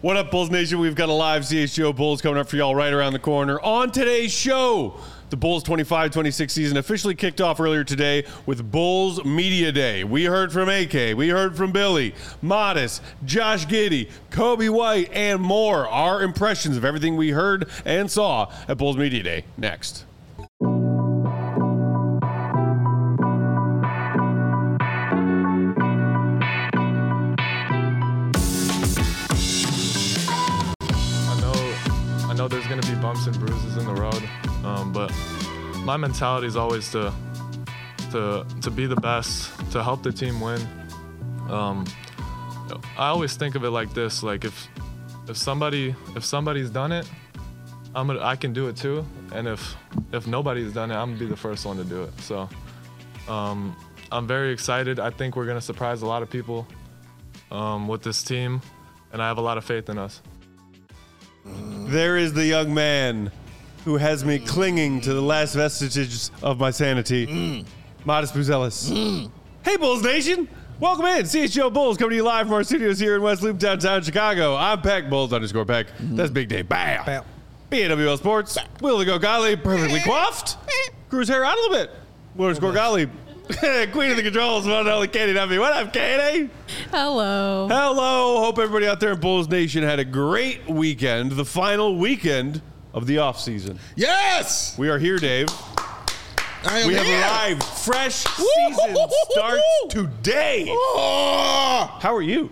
What up, Bulls Nation? We've got a live CHGO Bulls coming up for y'all right around the corner. On today's show, the Bulls 25-26 season officially kicked off earlier today with Bulls Media Day. We heard from AK, we heard from Billy, Modest, Josh Giddey, Kobe White, and more. Our impressions of everything we heard and saw at Bulls Media Day. Next. I know there's going to be bumps and bruises in the road, but my mentality is always to be the best, to help the team win. I always think of it like this: like if somebody's done it, I can do it too, and if nobody's done it, I'm gonna be the first one to do it. So I'm very excited. I think we're gonna surprise a lot of people with this team, and I have a lot of faith in us. There is the young man who has me clinging to the last vestiges of my sanity, Modest Buzelis. Hey, Bulls Nation. Welcome in. CHGO Bulls coming to you live from our studios here in West Loop, downtown Chicago. I'm Peck, Bulls_Peck. That's Big Dave. Bam. BAWL Sports. Will to go Golly, perfectly coiffed. Grew his hair out a little bit. Will score Golly. Queen of the controls, one and only Katie Duffy. What up, Katie? Hello. Hello. Hope everybody out there in Bulls Nation had a great weekend, the final weekend of the offseason. Yes! We are here, Dave. We have arrived. Fresh season starts today. How are you?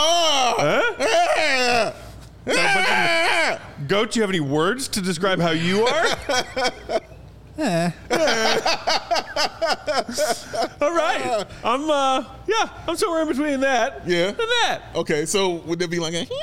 Goat, do you have any words to describe how you are? All right. I'm somewhere in between that and that. Okay, so would there be like a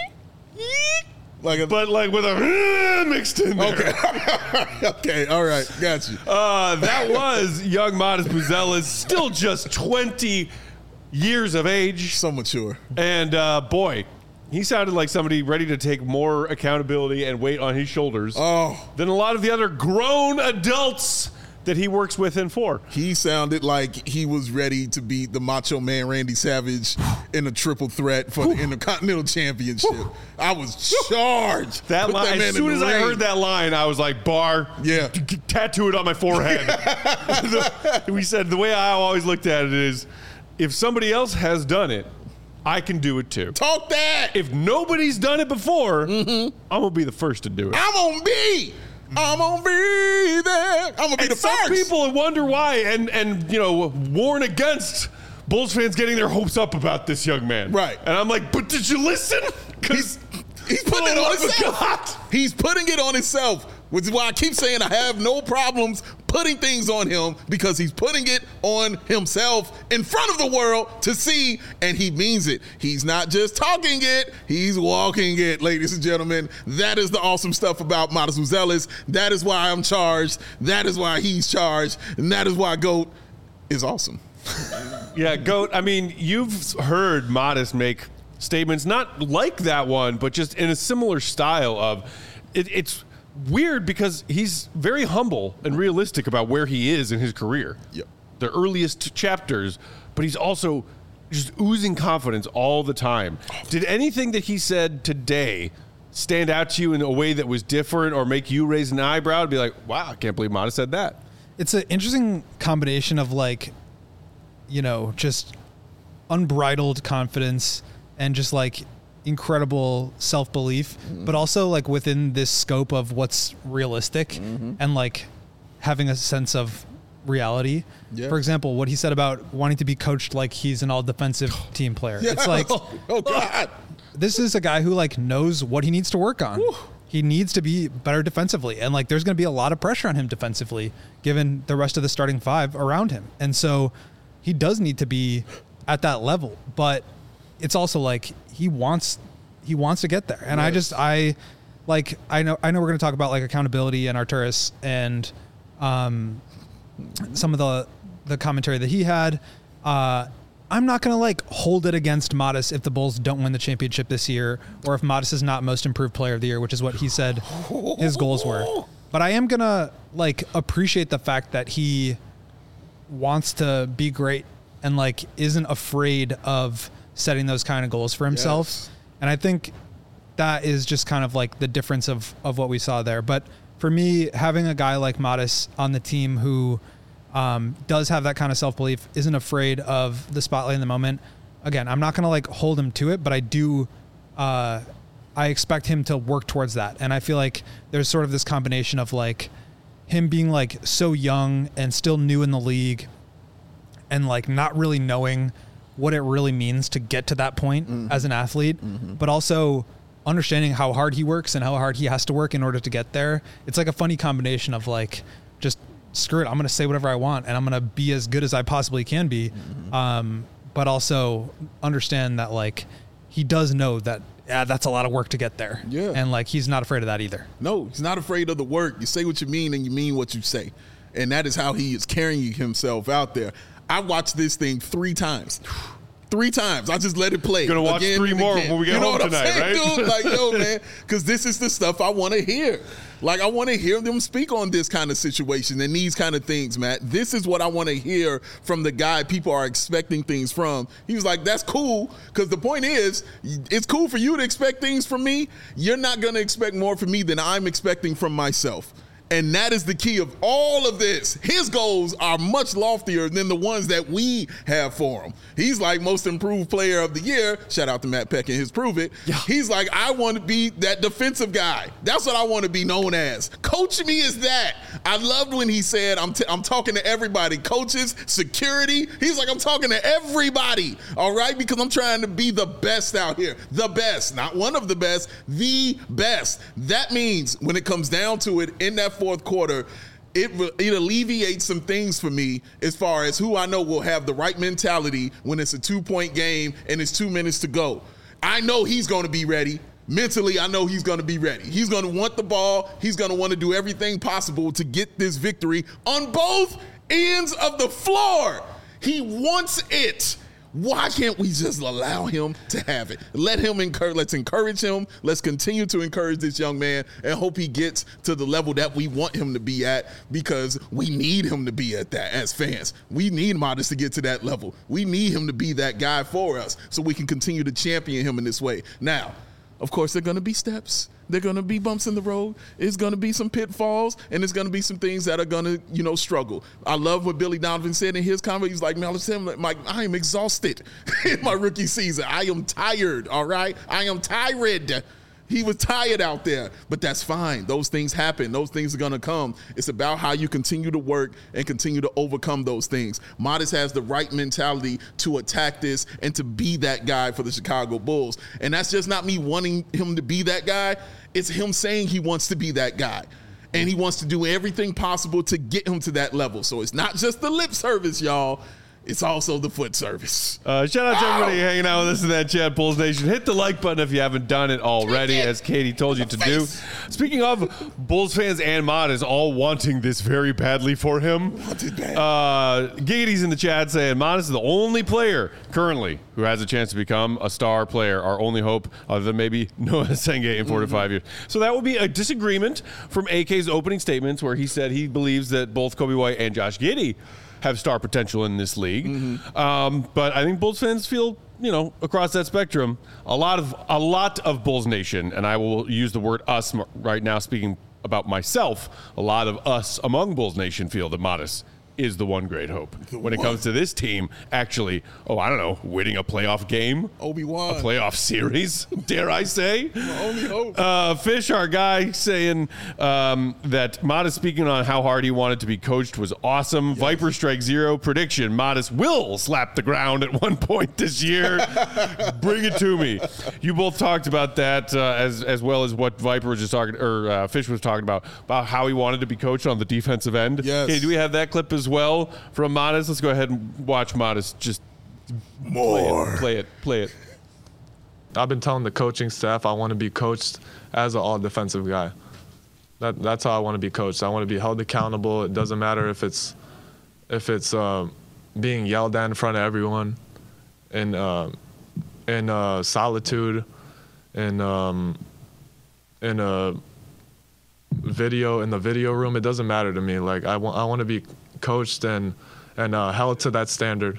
but with a mixed in there. Okay. Okay, all right. Got you. That was young Modest Buzelis, still just 20 years of age. So mature. And boy, he sounded like somebody ready to take more accountability and weight on his shoulders than a lot of the other grown adults that he works with and for. He sounded like he was ready to beat the Macho Man Randy Savage in a triple threat for the Intercontinental Championship. I was charged. That line, as soon as I heard that line, I was like, bar, tattoo it on my forehead. We said, the way I always looked at it is, if somebody else has done it, I can do it too. Talk that. If nobody's done it before, I'm going to be the first to do it. I'm going to be there. I'm going to be the first. Some people wonder why and warn against Bulls fans getting their hopes up about this young man. Right. And I'm like, but did you listen? Because he's putting it on himself. He's putting it on himself, which is why I keep saying I have no problems putting things on him, because he's putting it on himself in front of the world to see, and he means it. He's not just talking it, he's walking it, ladies and gentlemen. That is the awesome stuff about Modest Buzelis. That is why I'm charged. That is why he's charged. And that is why GOAT is awesome. Yeah, GOAT, I mean, you've heard Modest make statements not like that one, but just in a similar style of it's weird because he's very humble and realistic about where he is in his career. Yep. The earliest chapters, but he's also just oozing confidence all the time. Did anything that he said today stand out to you in a way that was different or make you raise an eyebrow and be like, wow, I can't believe Modest said that? It's an interesting combination of just unbridled confidence and just incredible self-belief, but also within this scope of what's realistic and having a sense of reality. Yeah. For example, what he said about wanting to be coached like he's an all-defensive team player. Yeah. It's oh God, this is a guy who knows what he needs to work on. Whew. He needs to be better defensively, and there's going to be a lot of pressure on him defensively given the rest of the starting five around him. And so he does need to be at that level, but it's also he wants to get there. And yes. I know we're going to talk about accountability and Arturas and some of the commentary that he had. I'm not going to hold it against Modest if the Bulls don't win the championship this year, or if Modest is not most improved player of the year, which is what he said his goals were. But I am going to appreciate the fact that he wants to be great and isn't afraid of setting those kind of goals for himself. Yes. And I think that is just kind of like the difference of what we saw there. But for me, having a guy like Modis on the team who does have that kind of self-belief, isn't afraid of the spotlight in the moment. Again, I'm not going to like hold him to it, but I do, I expect him to work towards that. And I feel like there's sort of this combination of like him being like so young and still new in the league and like not really knowing what it really means to get to that point as an athlete, but also understanding how hard he works and how hard he has to work in order to get there. It's like a funny combination of like, just screw it, I'm going to say whatever I want and I'm going to be as good as I possibly can be. But also understand that like he does know that that's a lot of work to get there. Yeah. And like he's not afraid of that either. No, he's not afraid of the work. You say what you mean and you mean what you say. And that is how he is carrying himself out there. I watched this thing 3 times. 3 times. I just let it play. Gonna watch 3 more when we get home tonight, right? Dude? Like, yo, man, because this is the stuff I want to hear. Like, I want to hear them speak on this kind of situation and these kind of things, Matt. This is what I want to hear from the guy people are expecting things from. He was like, that's cool, because the point is, it's cool for you to expect things from me. You're not going to expect more from me than I'm expecting from myself. And that is the key of all of this. His goals are much loftier than the ones that we have for him. He's like most improved player of the year. Shout out to Matt Peck and his Prove It. Yeah. He's like, I want to be that defensive guy. That's what I want to be known as. Coach me is that. I loved when he said, I'm talking to everybody. Coaches, security. He's like, I'm talking to everybody. All right? Because I'm trying to be the best out here. The best. Not one of the best. The best. That means when it comes down to it in that fourth quarter, it alleviates some things for me as far as who I know will have the right mentality when it's a 2-point game and it's 2 minutes to go. I know he's going to be ready. Mentally, I know he's going to be ready. He's going to want the ball. He's going to want to do everything possible to get this victory on both ends of the floor. He wants it. Why can't we just allow him to have it? Let's encourage him. Let's continue to encourage this young man and hope he gets to the level that we want him to be at, because we need him to be at that as fans. We need Modis to get to that level. We need him to be that guy for us so we can continue to champion him in this way. Now, of course, there are going to be steps. There are going to be bumps in the road. It's going to be some pitfalls, and there's going to be some things that are going to, struggle. I love what Billy Donovan said in his comment. He's like, man, I am exhausted in my rookie season. I am tired, all right? I am tired. He was tired out there, but that's fine. Those things happen. Those things are going to come. It's about how you continue to work and continue to overcome those things. Modis has the right mentality to attack this and to be that guy for the Chicago Bulls. And that's just not me wanting him to be that guy. It's him saying he wants to be that guy. And he wants to do everything possible to get him to that level. So it's not just the lip service, y'all. It's also the foot service. Shout out to everybody hanging out with us in that chat, Bulls Nation. Hit the like button if you haven't done it already, as Katie told you to do. Speaking of Bulls fans and Modis all wanting this very badly for him, Giggity's in the chat saying Modis is the only player currently who has a chance to become a star player. Our only hope, other than maybe Noah Senge in 4 to 5 years. So that would be a disagreement from AK's opening statements, where he said he believes that both Coby White and Josh Giddey have star potential in this league. But I think Bulls fans feel, across that spectrum, a lot of Bulls Nation, and I will use the word us right now speaking about myself, a lot of us among Bulls Nation feel that Modis is the one great hope when it comes to this team actually, winning a playoff game. Obi-Wan. A playoff series, dare I say. Only hope. Fish, our guy, saying that Modis speaking on how hard he wanted to be coached was awesome. Yes. Viper Strike Zero prediction, Modis will slap the ground at one point this year. Bring it to me. You both talked about that as well as what Viper was just talking, or Fish was talking about how he wanted to be coached on the defensive end. Yes. Okay, do we have that clip as well from Modis? Let's go ahead and watch Modis just play it. I've been telling the coaching staff I want to be coached as an all-defensive guy. That's how I want to be coached. I want to be held accountable. It doesn't matter if it's being yelled at in front of everyone, in solitude, in the video room. It doesn't matter to me. Like I want to be coached and held to that standard.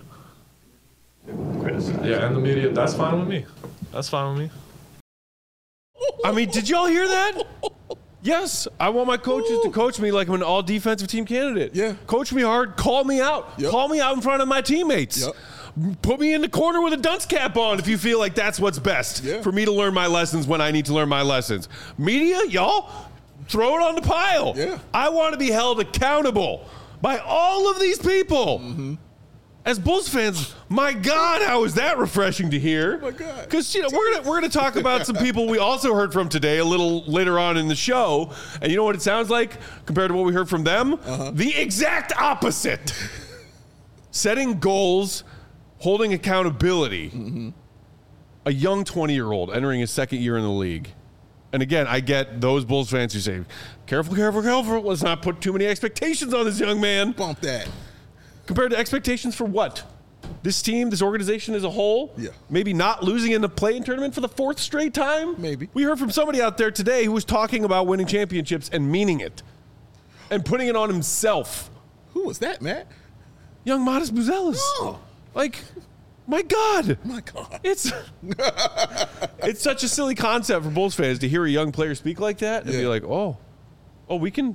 Yeah, and the media, that's fine with me. That's fine with me. I mean, did y'all hear that? Yes, I want my coaches to coach me like I'm an all-defensive team candidate. Yeah. Coach me hard, call me out. Yep. Call me out in front of my teammates. Yep. Put me in the corner with a dunce cap on if you feel like that's what's best for me to learn my lessons when I need to learn my lessons. Media, y'all, throw it on the pile. Yeah. I want to be held accountable by all of these people. Mm-hmm. As Bulls fans, my God, how is that refreshing to hear? Oh my God. Because we're gonna talk about some people we also heard from today a little later on in the show, and you know what it sounds like compared to what we heard from them? The exact opposite. Setting goals, holding accountability. A young 20-year-old entering his second year in the league. And again, I get those Bulls fans who say, careful, careful, careful. Let's not put too many expectations on this young man. Bump that. Compared to expectations for what? This team, this organization as a whole? Yeah. Maybe not losing in the play-in tournament for the fourth straight time? Maybe. We heard from somebody out there today who was talking about winning championships and meaning it. And putting it on himself. Who was that, Matt? Young Modest Buzelis. Oh. Like, my God. My God. It's such a silly concept for Bulls fans to hear a young player speak like that and be like, oh, we can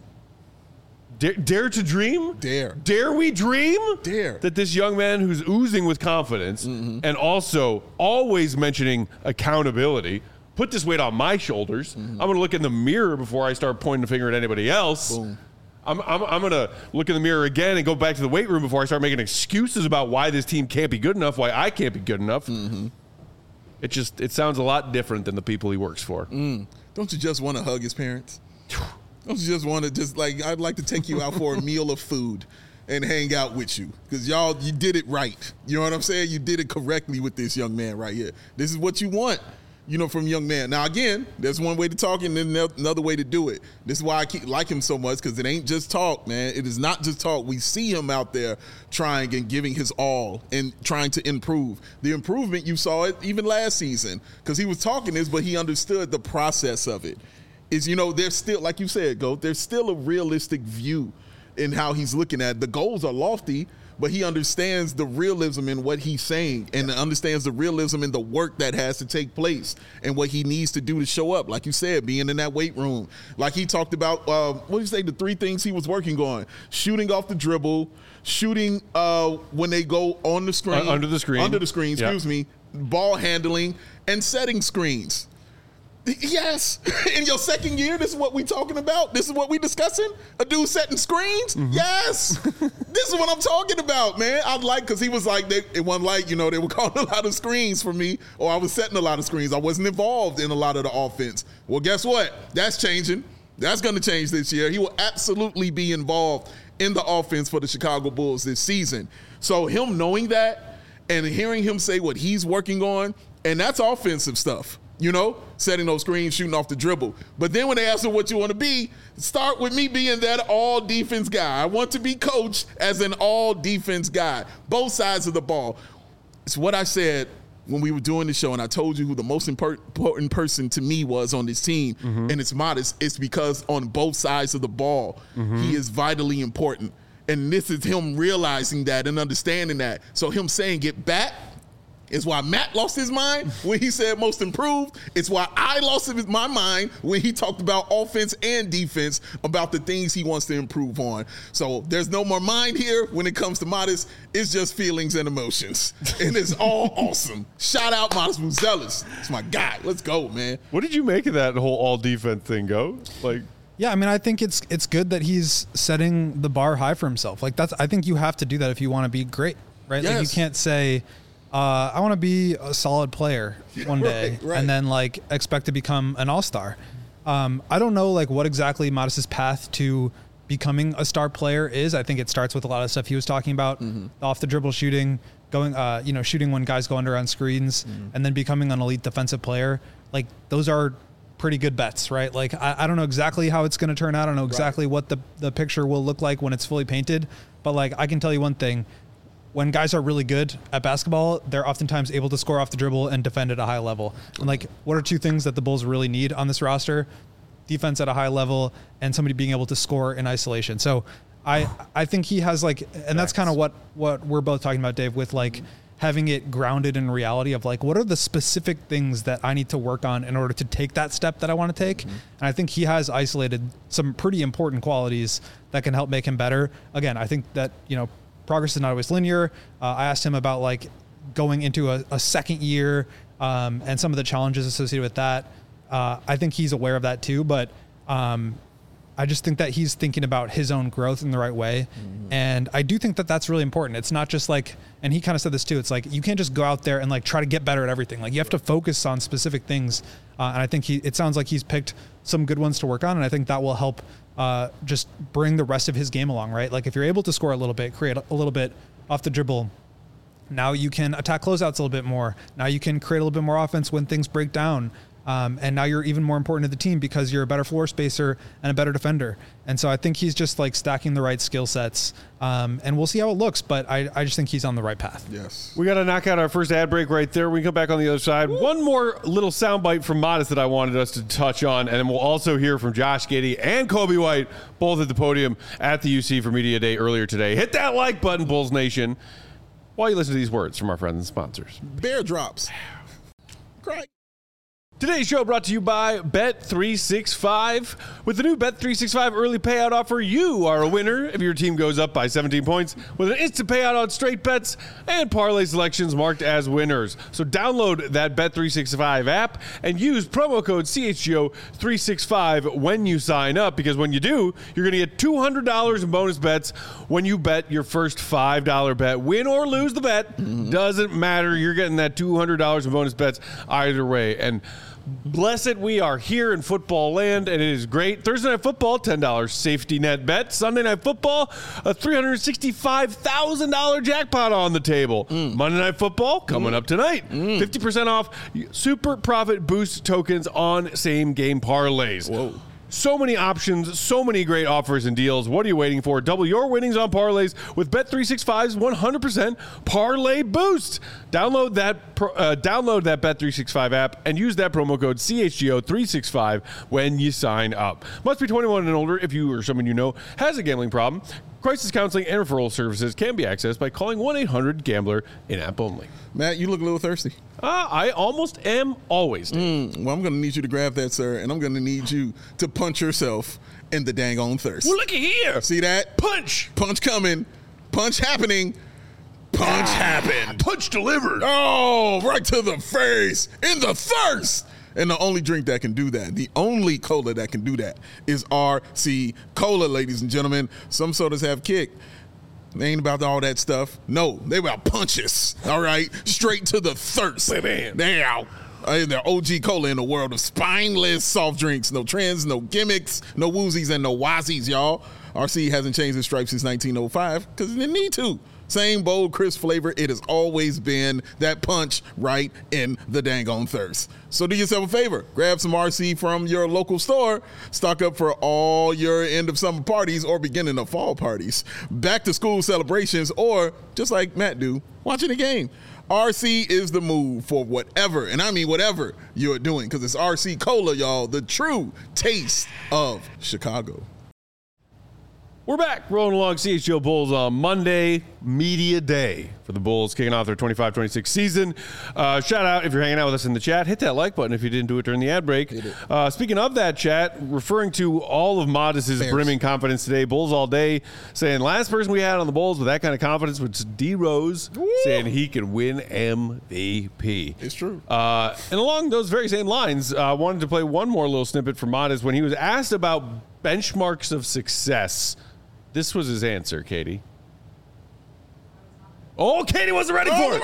dare to dream? Dare we dream? Dare. That this young man who's oozing with confidence and also always mentioning accountability, put this weight on my shoulders. I'm going to look in the mirror before I start pointing the finger at anybody else. Boom. I'm going to look in the mirror again and go back to the weight room before I start making excuses about why this team can't be good enough, why I can't be good enough. It sounds a lot different than the people he works for. Don't you just want to hug his parents? Don't you just want to I'd like to take you out for a meal of food and hang out with you because you did it right. You know what I'm saying? You did it correctly with this young man right here. This is what you want, from young man. Now, again, there's one way to talk and then another way to do it. This is why I like him so much because it ain't just talk, man. It is not just talk. We see him out there trying and giving his all and trying to improve. The improvement, you saw it even last season because he was talking this, but he understood the process of it. There's still, like you said, Goat, there's still a realistic view in how he's looking at it. The goals are lofty, but he understands the realism in what he's saying and understands the realism in the work that has to take place and what he needs to do to show up. Like you said, being in that weight room. Like he talked about, what do you say, the three things he was working on? Shooting off the dribble, shooting when they go on the screen. Under the screen, excuse me. Ball handling and setting screens. Yes. In your second year, this is what we talking about? This is what we discussing? A dude setting screens? Yes. This is what I'm talking about, man. Because he was like, it wasn't like, they were calling a lot of screens for me, or I was setting a lot of screens. I wasn't involved in a lot of the offense. Well, guess what? That's changing. That's going to change this year. He will absolutely be involved in the offense for the Chicago Bulls this season. So him knowing that and hearing him say what he's working on, and that's offensive stuff. Setting those screens, shooting off the dribble. But then when they ask him what you want to be, start with me being that all-defense guy. I want to be coached as an all-defense guy, both sides of the ball. It's what I said when we were doing the show, and I told you who the most important person to me was on this team, and it's Modest. It's because on both sides of the ball, he is vitally important. And this is him realizing that and understanding that. So him saying get back, it's why Matt lost his mind when he said most improved. It's why I lost my mind when he talked about offense and defense, about the things he wants to improve on. So there's no more mind here when it comes to Modest. It's just feelings and emotions. And it's all awesome. Shout out Modest Buzelis. It's my guy. Let's go, man. What did you make of that whole all-defense thing, Go? Yeah, I mean, I think it's good that he's setting the bar high for himself. I think you have to do that if you want to be great, right? Yes. You can't say, I want to be a solid player one day right. and then expect to become an all-star. I don't know what exactly Modest's path to becoming a star player is. I think it starts with a lot of stuff he was talking about, off the dribble shooting, going, shooting when guys go under on screens, and then becoming an elite defensive player. Those are pretty good bets, right? I don't know exactly how it's going to turn out. I don't know exactly what the picture will look like when it's fully painted, but I can tell you one thing. When guys are really good at basketball, they're oftentimes able to score off the dribble and defend at a high level. And what are two things that the Bulls really need on this roster? Defense at a high level and somebody being able to score in isolation. So I think he has and that's kind of what we're both talking about, Dave, with having it grounded in reality of like, what are the specific things that I need to work on in order to take that step that I want to take? And I think he has isolated some pretty important qualities that can help make him better. Again, I think that, progress is not always linear. I asked him about like going into a second year and some of the challenges associated with that. I think he's aware of that too, but I just think that he's thinking about his own growth in the right way. And I do think that that's really important. It's not just like, and he kind of said this too, it's like, you can't just go out there and like try to get better at everything. Like you have to focus on specific things. And I think it sounds like he's picked some good ones to work on. And I think that will help just bring the rest of his game along, right? Like if you're able to score a little bit, create a little bit off the dribble, now you can attack closeouts a little bit more. Now you can create a little bit more offense when things break down. And now you're even more important to the team because you're a better floor spacer and a better defender. And so I think he's just like stacking the right skill sets. And we'll see how it looks, but I just think he's on the right path. Yes. We got to knock out our first ad break right there. We come back on the other side. One more little soundbite from Modest that I wanted us to touch on, and then we'll also hear from Josh Giddey and Kobe White, both at the podium at the UC for Media Day earlier today. Hit that like button, Bulls Nation, while you listen to these words from our friends and sponsors. Bear drops. Great. Today's show brought to you by Bet365. With the new Bet365 early payout offer, you are a winner if your team goes up by 17 points with an instant payout on straight bets and parlay selections marked as winners. So download that Bet365 app and use promo code CHGO365 when you sign up, because when you do, you're going to get $200 in bonus bets when you bet your first $5 bet. Win or lose the bet, doesn't matter. You're getting that $200 in bonus bets either way. And blessed, we are here in football land, and it is great. Thursday Night Football, $10 safety net bet. Sunday Night Football, a $365,000 jackpot on the table. Monday Night Football, coming up tonight. 50% off Super Profit Boost tokens on same-game parlays. Whoa. So many options, so many great offers and deals. What are you waiting for? Double your winnings on parlays with Bet365's 100% Parlay Boost. Download that Bet365 app and use that promo code CHGO365 when you sign up. Must be 21 and older if you or someone you know has a gambling problem. Crisis counseling and referral services can be accessed by calling 1-800-GAMBLER in-app only. Matt, you look a little thirsty. I almost am always. Well, I'm going to need you to grab that, sir, and I'm going to need you to punch yourself in the dang on thirst. Well, looky here. See that? Punch. Punch coming. Punch happening. Punch happened. Punch delivered. Oh, right to the face. In the thirst. And the only drink that can do that, the only cola that can do that, is RC Cola, ladies and gentlemen. Some sodas have kick. They ain't about all that stuff. No, they about punches. All right? Straight to the thirst. Bam. Now, they're OG Cola in the world of spineless soft drinks. No trends, no gimmicks, no woozies, and no wazies, y'all. RC hasn't changed its stripes since 1905 because it didn't need to. Same bold, crisp flavor. It has always been that punch right in the dang on thirst. So do yourself a favor. Grab some RC from your local store. Stock up for all your end of summer parties or beginning of fall parties. Back to school celebrations, or just like Matt do, watching a game. RC is the move for whatever, and I mean whatever you're doing, because it's RC Cola, y'all, the true taste of Chicago. We're back, rolling along CHGO Bulls on Monday, Media Day for the Bulls, kicking off their 25-26 season. Shout out if you're hanging out with us in the chat. Hit that like button if you didn't do it during the ad break. Speaking of that chat, referring to all of Modest's brimming confidence today, Bulls all day, saying last person we had on the Bulls with that kind of confidence was D Rose, saying he could win MVP. It's true. And along those very same lines, I wanted to play one more little snippet from Modest when he was asked about benchmarks of success. This was his answer, Katie. Oh, Katie wasn't ready for it.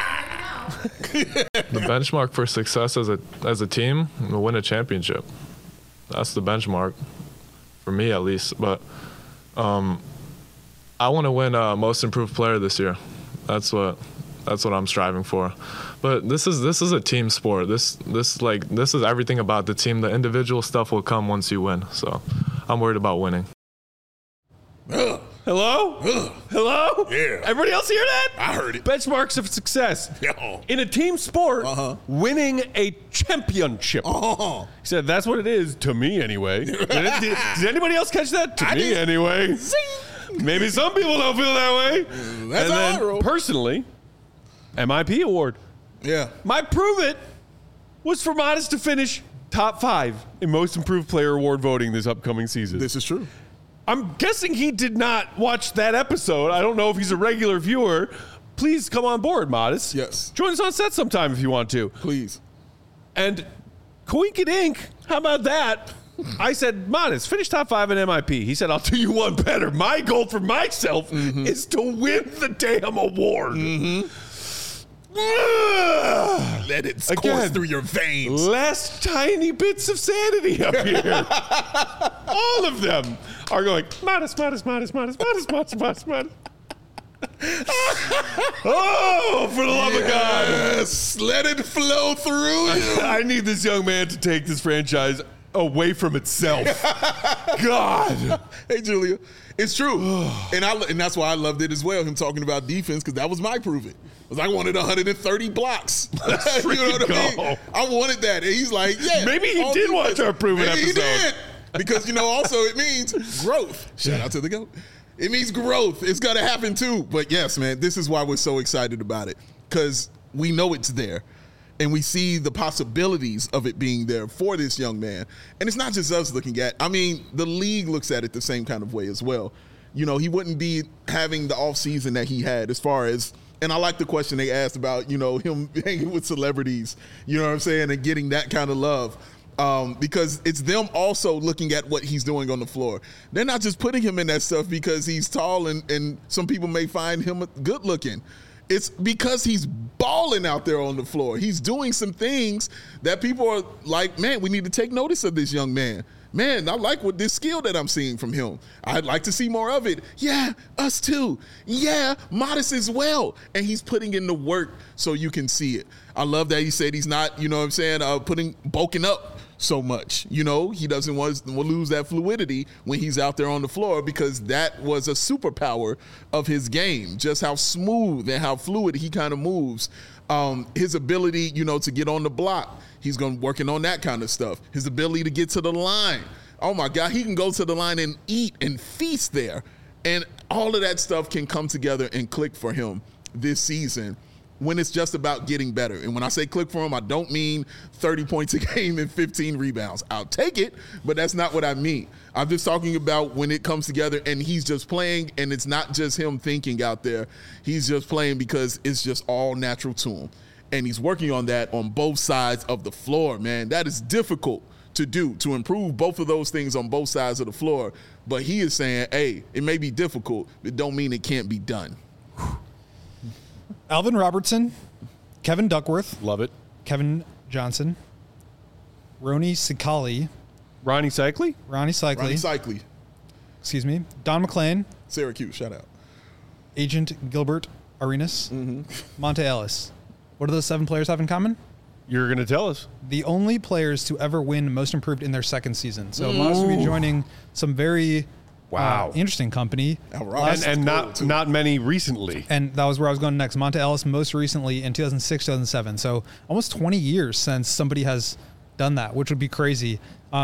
The benchmark for success as a team, to win a championship. That's the benchmark, for me at least. But I want to win Most Improved Player this year. That's what I'm striving for. But this is a team sport. This is everything about the team. The individual stuff will come once you win. So I'm worried about winning. Hello? Hello? Yeah. Everybody else hear that? I heard it. Benchmarks of success. Yeah. In a team sport, winning a championship. He said, that's what it is, to me anyway. Did anybody else catch that? To me anyway. Maybe some people don't feel that way. That's and how I then roll. Personally, MIP award. Yeah. My prove it was for Modest to finish top 5 in most improved player award voting this upcoming season. This is true. I'm guessing he did not watch that episode. I don't know if he's a regular viewer. Please come on board, Modest. Yes. Join us on set sometime if you want to. Please. And Coink Inc., how about that? I said, Modest, finish top 5 in MIP. He said, I'll do you one better. My goal for myself is to win the damn award. Let it course through your veins. Last tiny bits of sanity up here. All of them are going, Modest. Oh, for the love of God. Yes, let it flow through you. I need this young man to take this franchise away from itself. God. Hey, Julia, it's true. and that's why I loved it as well, him talking about defense, because that was my prove it. Because I wanted 130 blocks. You know what I mean? I wanted that. And he's like, yeah. Maybe he did watch our prove it episode. He did. Because, also it means growth. Shout out to the GOAT. It means growth. It's going to happen too. But yes, man, this is why we're so excited about it. Because we know it's there. And we see the possibilities of it being there for this young man. And it's not just us looking at. I mean, the league looks at it the same kind of way as well. He wouldn't be having the offseason that he had as far as, and I like the question they asked about, him hanging with celebrities, you know what I'm saying, and getting that kind of love. Because it's them also looking at what he's doing on the floor. They're not just putting him in that stuff because he's tall and some people may find him good looking. It's because he's balling out there on the floor. He's doing some things that people are like, man, we need to take notice of this young man. Man, I like what this skill that I'm seeing from him. I'd like to see more of it. Yeah, us too. Yeah, Modest as well. And he's putting in the work so you can see it. I love that he said he's not, bulking up so much. He doesn't want to lose that fluidity when he's out there on the floor, because that was a superpower of his game, just how smooth and how fluid he kind of moves. His ability, to get on the block. He's working on that kind of stuff. His ability to get to the line. Oh my God, he can go to the line and eat and feast there. And all of that stuff can come together and click for him this season when it's just about getting better. And when I say click for him, I don't mean 30 points a game and 15 rebounds. I'll take it, but that's not what I mean. I'm just talking about when it comes together and he's just playing, and it's not just him thinking out there. He's just playing because it's just all natural to him. And he's working on that on both sides of the floor, man. That is difficult to do, to improve both of those things on both sides of the floor. But he is saying, hey, it may be difficult, but don't mean it can't be done. Alvin Robertson, Kevin Duckworth, Love it. Kevin Johnson, Ronnie Cycli, Ronnie Cycli? Ronnie Cycli. Excuse me. Don McClain, Syracuse, shout out. Agent Gilbert Arenas, Monte Ellis. What do those 7 players have in common? You're going to tell us. The only players to ever win Most Improved in their second season. So Modest will be joining some very interesting company. And not many recently. And that was where I was going next. Monte Ellis most recently in 2006, 2007. So almost 20 years since somebody has done that, which would be crazy.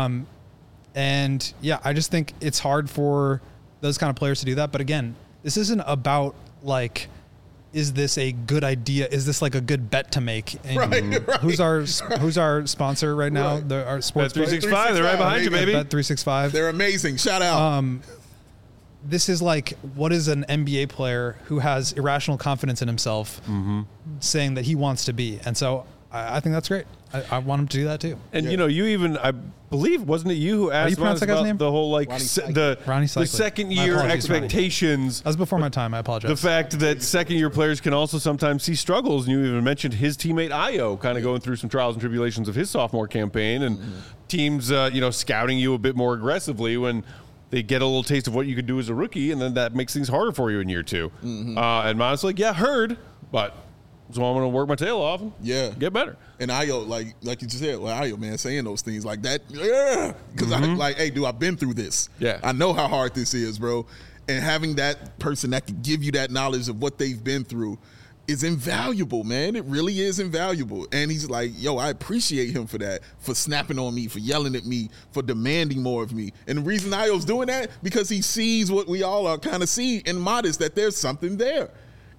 And yeah, I just think it's hard for those kind of players to do that. But again, this isn't about like, is this a good idea? Is this like a good bet to make? And right. Who's our sponsor right now? Right. Our sports Bet365. They're right behind you, baby. Bet365. They're amazing. Shout out. This is like, what is an NBA player who has irrational confidence in himself saying that he wants to be? And so I think that's great. I want him to do that too. And you even, I believe, wasn't it you who asked pronounce that guy's about name? the whole Ronnie Cycli. the second My year apologies, expectations? That was before my time. I apologize. The fact that second year players can also sometimes see struggles, and you even mentioned his teammate Ayo kind of going through some trials and tribulations of his sophomore campaign, and teams scouting you a bit more aggressively when they get a little taste of what you could do as a rookie, and then that makes things harder for you in year 2. And Modest's like, yeah, heard, but so I'm going to work my tail off and get better. And Ayo, like you just said, Ayo, man, saying those things like that, because I'm like, hey, dude, I've been through this. Yeah. I know how hard this is, bro. And having that person that can give you that knowledge of what they've been through is invaluable, man. It really is invaluable. And he's like, yo, I appreciate him for that, for snapping on me, for yelling at me, for demanding more of me. And the reason Ayo's doing that, because he sees what we all are kind of see in Modest, that there's something there.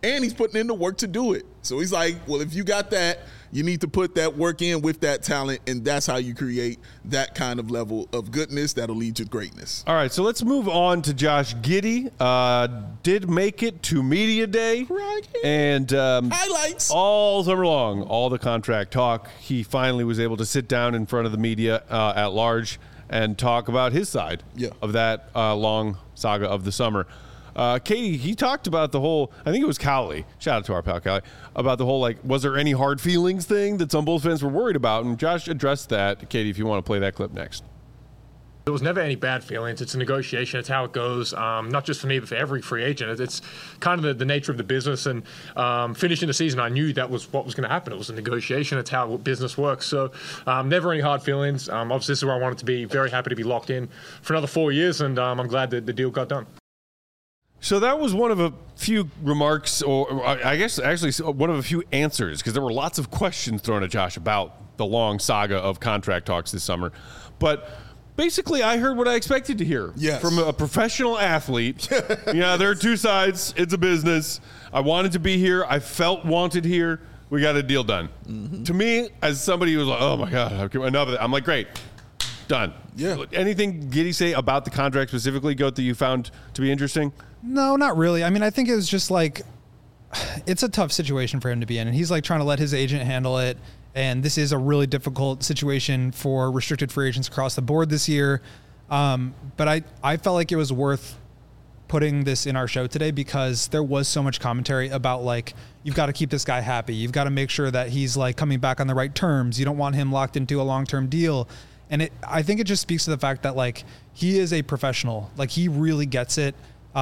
and he's putting in the work to do it. So he's like, well, if you got that, you need to put that work in with that talent, and that's how you create that kind of level of goodness that'll lead to greatness. All right, so let's move on to Josh Giddey. Did make it to media day, and highlights all summer long, all the contract talk. He finally was able to sit down in front of the media at large and talk about his side of that long saga of the summer. Katie, he talked about the whole, I think it was Cowley, shout out to our pal Cowley, about the whole, like, was there any hard feelings thing that some Bulls fans were worried about? And Josh addressed that. Katie, if you want to play that clip next. There was never any bad feelings. It's a negotiation. It's how it goes. Not just for me, but for every free agent. It's kind of the nature of the business. And finishing the season, I knew that was what was going to happen. It was a negotiation. It's how business works. So never any hard feelings. Obviously, this is where I wanted to be. Very happy to be locked in for another 4 years. And I'm glad that the deal got done. So that was one of a few remarks, or I guess actually one of a few answers, because there were lots of questions thrown at Josh about the long saga of contract talks this summer. But basically, I heard what I expected to hear from a professional athlete. There are two sides. It's a business. I wanted to be here. I felt wanted here. We got a deal done. Mm-hmm. To me, as somebody who was like, oh, my God, enough of that, I'm like, great. Done. Yeah. Anything Giddey say about the contract specifically, Goat, that you found to be interesting? No, not really. I mean, I think it was just like, it's a tough situation for him to be in. And he's like trying to let his agent handle it. And this is a really difficult situation for restricted free agents across the board this year. But I felt like it was worth putting this in our show today because there was so much commentary about, like, you've got to keep this guy happy. You've got to make sure that he's, like, coming back on the right terms. You don't want him locked into a long-term deal. And I think it just speaks to the fact that, like, he is a professional. Like, he really gets it.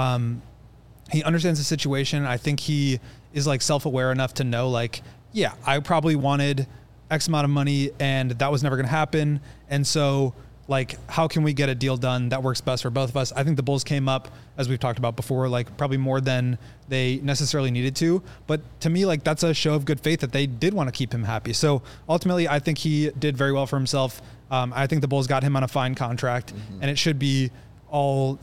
He understands the situation. I think he is, like, self-aware enough to know, like, yeah, I probably wanted X amount of money and that was never going to happen. And so, like, how can we get a deal done that works best for both of us? I think the Bulls came up, as we've talked about before, like, probably more than they necessarily needed to. But to me, like, that's a show of good faith that they did want to keep him happy. So ultimately, I think he did very well for himself. I think the Bulls got him on a fine contract, and it should be all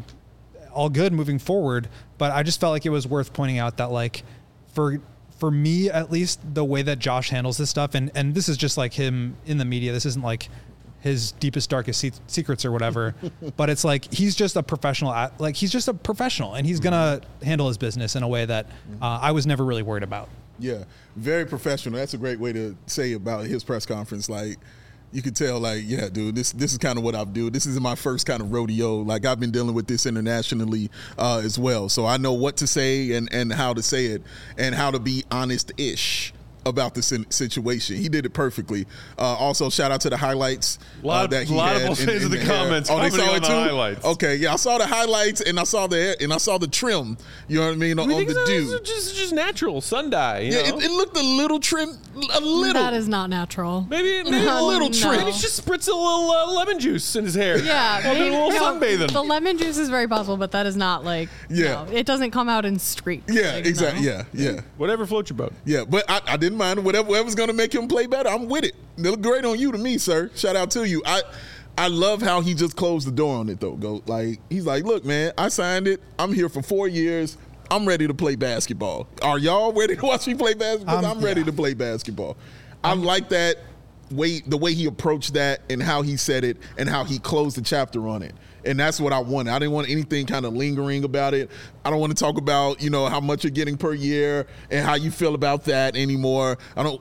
good moving forward. But I just felt like it was worth pointing out that, like, for me, at least, the way that Josh handles this stuff, and this is just like him in the media. This isn't like his deepest, darkest secrets or whatever, but it's like, he's just a professional, he's just a professional, and he's going to handle his business in a way that I was never really worried about. Yeah, very professional. That's a great way to say about his press conference. Like, you could tell, like, yeah, dude, this is kind of what I do. This isn't my first kind of rodeo. Like, I've been dealing with this internationally as well. So I know what to say and how to say it and how to be honest-ish about the situation. He did it perfecly. Also, shout out to the highlights that he had. A lot of Bulls fans in the comments. Oh, they saw it too? Highlights. Okay, yeah, I saw the highlights and I saw the trim. You know what I mean? On the dude, just natural sun dye. You know? It looked a little trim. A little. That is not natural. Maybe a little trim. Maybe he's just spritz a little lemon juice in his hair. Yeah, maybe a little sunbathing. The lemon juice is very possible, but that is not like. Yeah, no, it doesn't come out in streaks. Yeah, like, exactly. No. Yeah. Whatever floats your boat. Yeah, but I didn't mind whatever's going to make him play better. I'm with it. They look great on you to me, sir. Shout out to you. I love how he just closed the door on it, though. He's like, look, man, I signed it. I'm here for 4 years. I'm ready to play basketball. Are y'all ready to watch me play basketball? I'm ready to play basketball. I like that the way he approached that and how he said it and how he closed the chapter on it. And that's what I wanted. I didn't want anything kind of lingering about it. I don't want to talk about, how much you're getting per year and how you feel about that anymore.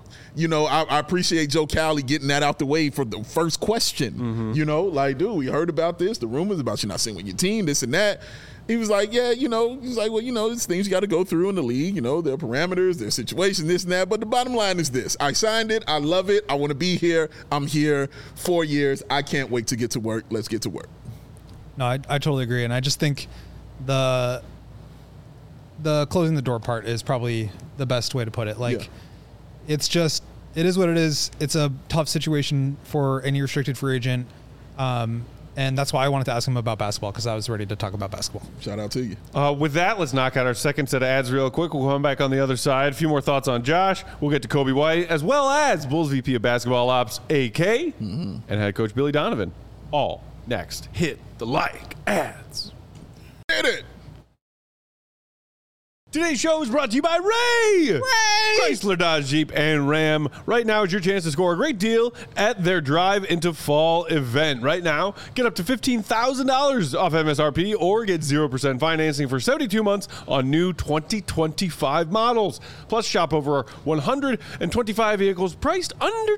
I appreciate Joe Cowley getting that out the way for the first question. Mm-hmm. Dude, we heard about this, the rumors about you not sitting with your team, this and that. He was like, yeah, he's like, well, there's things you got to go through in the league, there are parameters, there's situations, this and that. But the bottom line is this. I signed it. I love it. I want to be here. I'm here 4 years. I can't wait to get to work. Let's get to work. No, I totally agree. And I just think the closing the door part is probably the best way to put it. It is what it is. It's a tough situation for any restricted free agent. And that's why I wanted to ask him about basketball, because I was ready to talk about basketball. Shout out to you. With that, let's knock out our second set of ads real quick. We'll come back on the other side. A few more thoughts on Josh. We'll get to Kobe White, as well as Bulls VP of Basketball Ops, AK, and head coach Billy Donovan. All next. Hit the ads. Hit it. Today's show is brought to you by Ray! Chrysler, Dodge, Jeep, and Ram. Right now is your chance to score a great deal at their Drive into Fall event. Right now, get up to $15,000 off MSRP or get 0% financing for 72 months on new 2025 models. Plus, shop over 125 vehicles priced under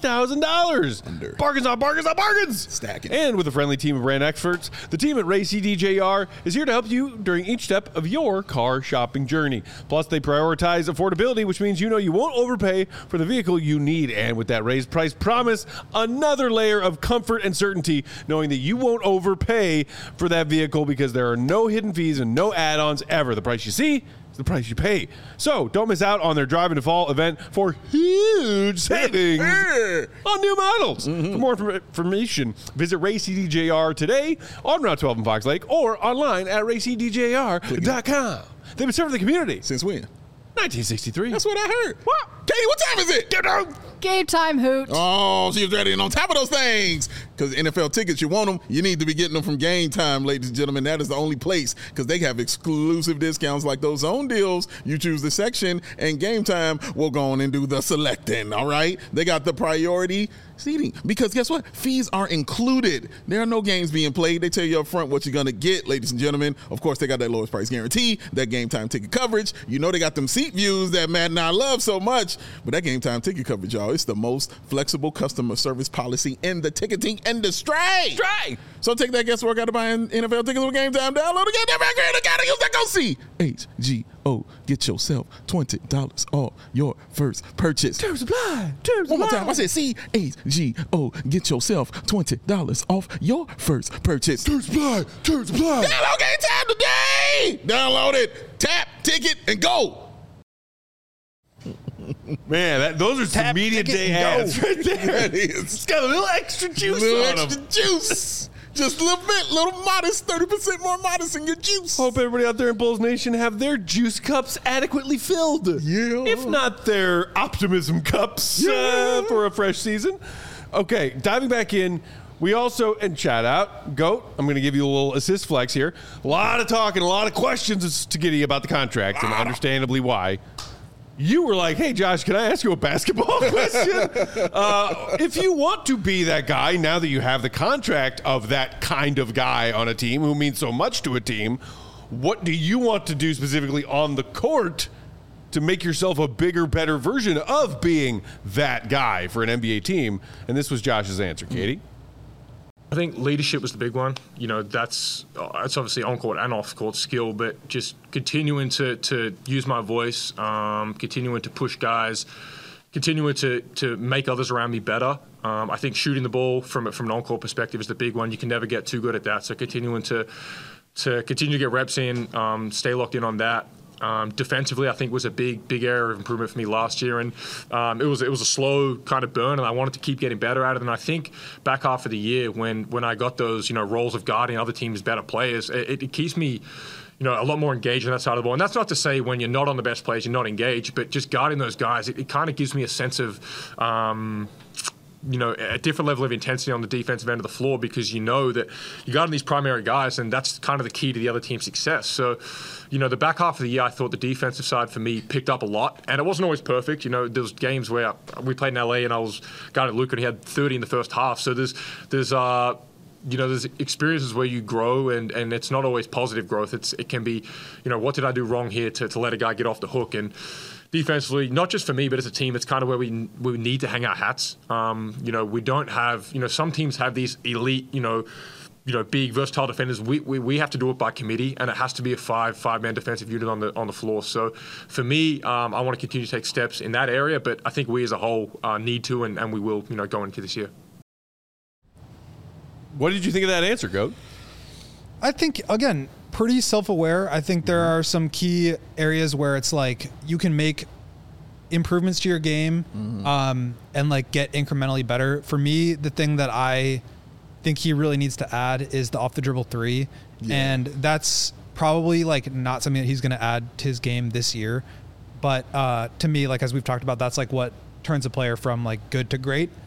$20,000. Bargains on bargains on bargains! Stacking. And with a friendly team of brand experts, the team at Ray CDJR is here to help you during each step of your car shopping journey. Plus, they prioritize affordability, which means you know you won't overpay for the vehicle you need. And with that raised price promise, another layer of comfort and certainty, knowing that you won't overpay for that vehicle because there are no hidden fees and no add-ons ever. The price you see is the price you pay. So don't miss out on their Drive into Fall event for huge savings on new models. For more information, visit RayCDJR today on Route 12 in Fox Lake or online at raycdjr.com. They've been serving the community Since when? 1963. That's what I heard. What? Katie, what time is it? Game time, Hoot. Oh, she was ready and on top of those things. Because NFL tickets, you want them, you need to be getting them from Game Time, ladies and gentlemen. That is the only place because they have exclusive discounts like those zone deals. You choose the section, and Game Time will go on and do the selecting, all right? They got the priority seating because guess what? Fees are included. There are no games being played. They tell you up front what you're going to get, ladies and gentlemen. Of course, they got that lowest price guarantee, that Game Time ticket coverage. You know they got them seat views that Matt and I love so much. But that Game Time ticket coverage, y'all, it's the most flexible customer service policy in the ticketing industry. So take that guesswork out of buying NFL tickets with Game Time. Download again. Never agree to gotta use that. Go see HGO. Get yourself $20 off your first purchase. Terms apply. One more time. I said CHGO. Get yourself $20 off your first purchase. Terms apply. Download Game Time today. Download it. Tap, ticket, and go. Man, those are some media day ads right there. That is. It's got a little extra juice Little on extra them. juice. Just a little bit, little modest, 30% more modest in your juice. Hope everybody out there in Bulls Nation have their juice cups adequately filled. Yeah. If not their optimism cups for a fresh season. Okay, diving back in. We also, and shout out, GOAT, I'm going to give you a little assist flex here. A lot of talk and a lot of questions to Giddy about the contract, and understandably why. You were like, hey, Josh, can I ask you a basketball question? If you want to be that guy, now that you have the contract of that kind of guy on a team who means so much to a team, what do you want to do specifically on the court to make yourself a bigger, better version of being that guy for an NBA team? And this was Josh's answer, Katie. I think leadership was the big one. You know, that's obviously on-court and off-court skill, but just continuing to use my voice, continuing to push guys, continuing to make others around me better. I think shooting the ball from an on-court perspective is the big one. You can never get too good at that. So continuing to continue to get reps in, stay locked in on that. Defensively, I think was a big area of improvement for me last year, and it was a slow kind of burn, and I wanted to keep getting better at it. And I think back half of the year when I got those roles of guarding other teams' better players, it keeps me a lot more engaged on that side of the ball. And that's not to say when you're not on the best players, you're not engaged, but just guarding those guys, it kind of gives me a sense of a different level of intensity on the defensive end of the floor because you know that you got these primary guys, and that's kind of the key to the other team's success. So, the back half of the year, I thought the defensive side for me picked up a lot, and it wasn't always perfect. There was games where we played in LA, and I was guarding Luka, and he had 30 in the first half. So there's experiences where you grow, and it's not always positive growth. It can be, what did I do wrong here to let a guy get off the hook? And defensively, not just for me, but as a team, it's kind of where we need to hang our hats. We don't have, some teams have these elite, big versatile defenders. We have to do it by committee, and it has to be a five-man defensive unit on the floor. So for me, I want to continue to take steps in that area, but I think we as a whole need to, and we will, go into this year. What did you think of that answer, Goat? I think, again, pretty self-aware. I think there are some key areas where it's like you can make improvements to your game and like get incrementally better. For me, the thing that I think he really needs to add is the off-the-dribble three. Yeah. And that's probably like not something that he's going to add to his game this year. But to me, like as we've talked about, that's like what turns a player from like good to great.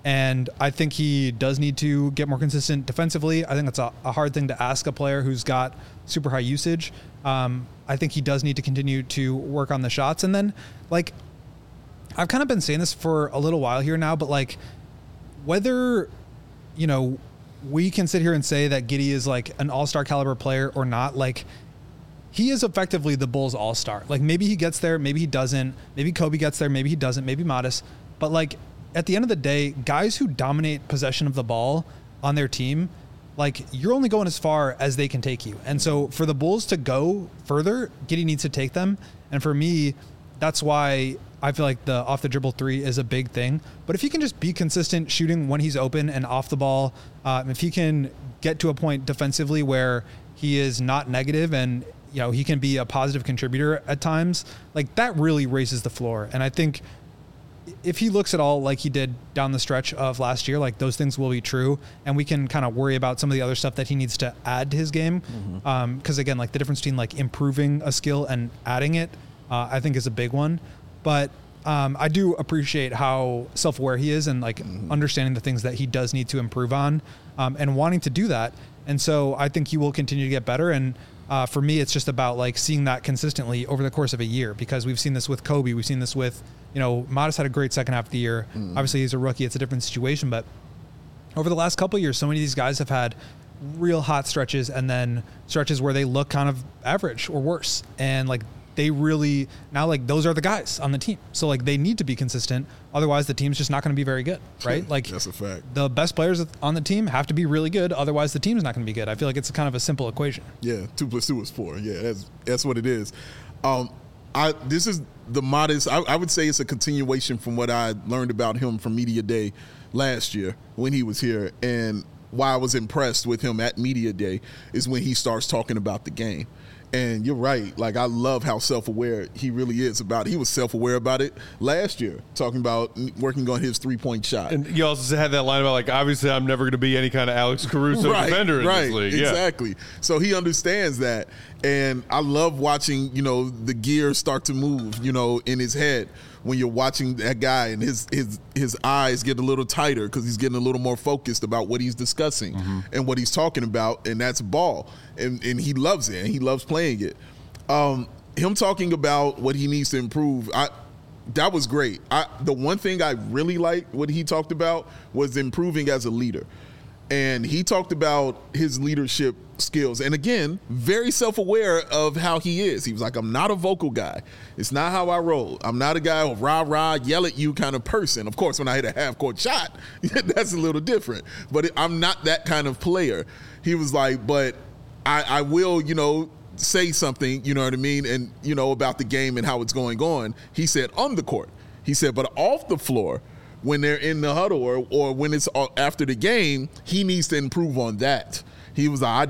And I think he does need to get more consistent defensively. I think that's a hard thing to ask a player who's got super high usage. I think he does need to continue to work on the shots. And then, like, I've kind of been saying this for a little while here now, but, like, whether, you know, we can sit here and say that Giddey is, like, an all-star caliber player or not, like, he is effectively the Bulls all-star. Like, maybe he gets there, maybe he doesn't. Maybe Kobe gets there, maybe he doesn't. Maybe Modest. But, like, at the end of the day, guys who dominate possession of the ball on their team, like, you're only going as far as they can take you. And so for the Bulls to go further, Giddey needs to take them. And for me, that's why I feel like the off the dribble three is a big thing. But if he can just be consistent shooting when he's open and off the ball, if he can get to a point defensively where he is not negative and, you know, he can be a positive contributor at times, like, that really raises the floor. And I think if he looks at all like he did down the stretch of last year, like, those things will be true, and we can kind of worry about some of the other stuff that he needs to add to his game. Because again, like, the difference between, like, improving a skill and adding it, I think is a big one. But I do appreciate how self-aware he is and, like, understanding the things that he does need to improve on, and wanting to do that. And so I think he will continue to get better. And for me, it's just about, like, seeing that consistently over the course of a year, because we've seen this with Kobe. We've seen this with, you know, Modest had a great second half of the year. Obviously, he's a rookie. It's a different situation. But over the last couple of years, so many of these guys have had real hot stretches and then stretches where they look kind of average or worse. And, like, they really now, like, those are the guys on the team. So, like, they need to be consistent. Otherwise, the team's just not going to be very good, right? Like, that's a fact. The best players on the team have to be really good. Otherwise, the team's not going to be good. I feel like it's kind of a simple equation. Yeah, 2 + 2 is 4. Yeah, that's what it is. This is the Modest. I would say it's a continuation from what I learned about him from Media Day last year when he was here. And why I was impressed with him at Media Day is when he starts talking about the game. And you're right. Like, I love how self-aware he really is about it. He was self-aware about it last year, talking about working on his three-point shot. And you also had that line about, like, obviously I'm never going to be any kind of Alex Caruso defender in this league. Exactly. So he understands that. And I love watching, you know, the gears start to move, you know, in his head when you're watching that guy and his eyes get a little tighter because he's getting a little more focused about what he's discussing and what he's talking about, and that's ball. And he loves it, and he loves playing it. Him talking about what he needs to improve, that was great. The one thing I really liked what he talked about was improving as a leader. And he talked about his leadership skills. And again, very self-aware of how he is. He was like, I'm not a vocal guy. It's not how I roll. I'm not a guy who rah-rah, yell at you kind of person. Of course, when I hit a half-court shot, that's a little different. But I'm not that kind of player. He was like, but I will, you know, say something, you know what I mean, and, you know, about the game and how it's going on. He said on the court. He said, but off the floor, when they're in the huddle or when it's after the game, he needs to improve on that. He was like,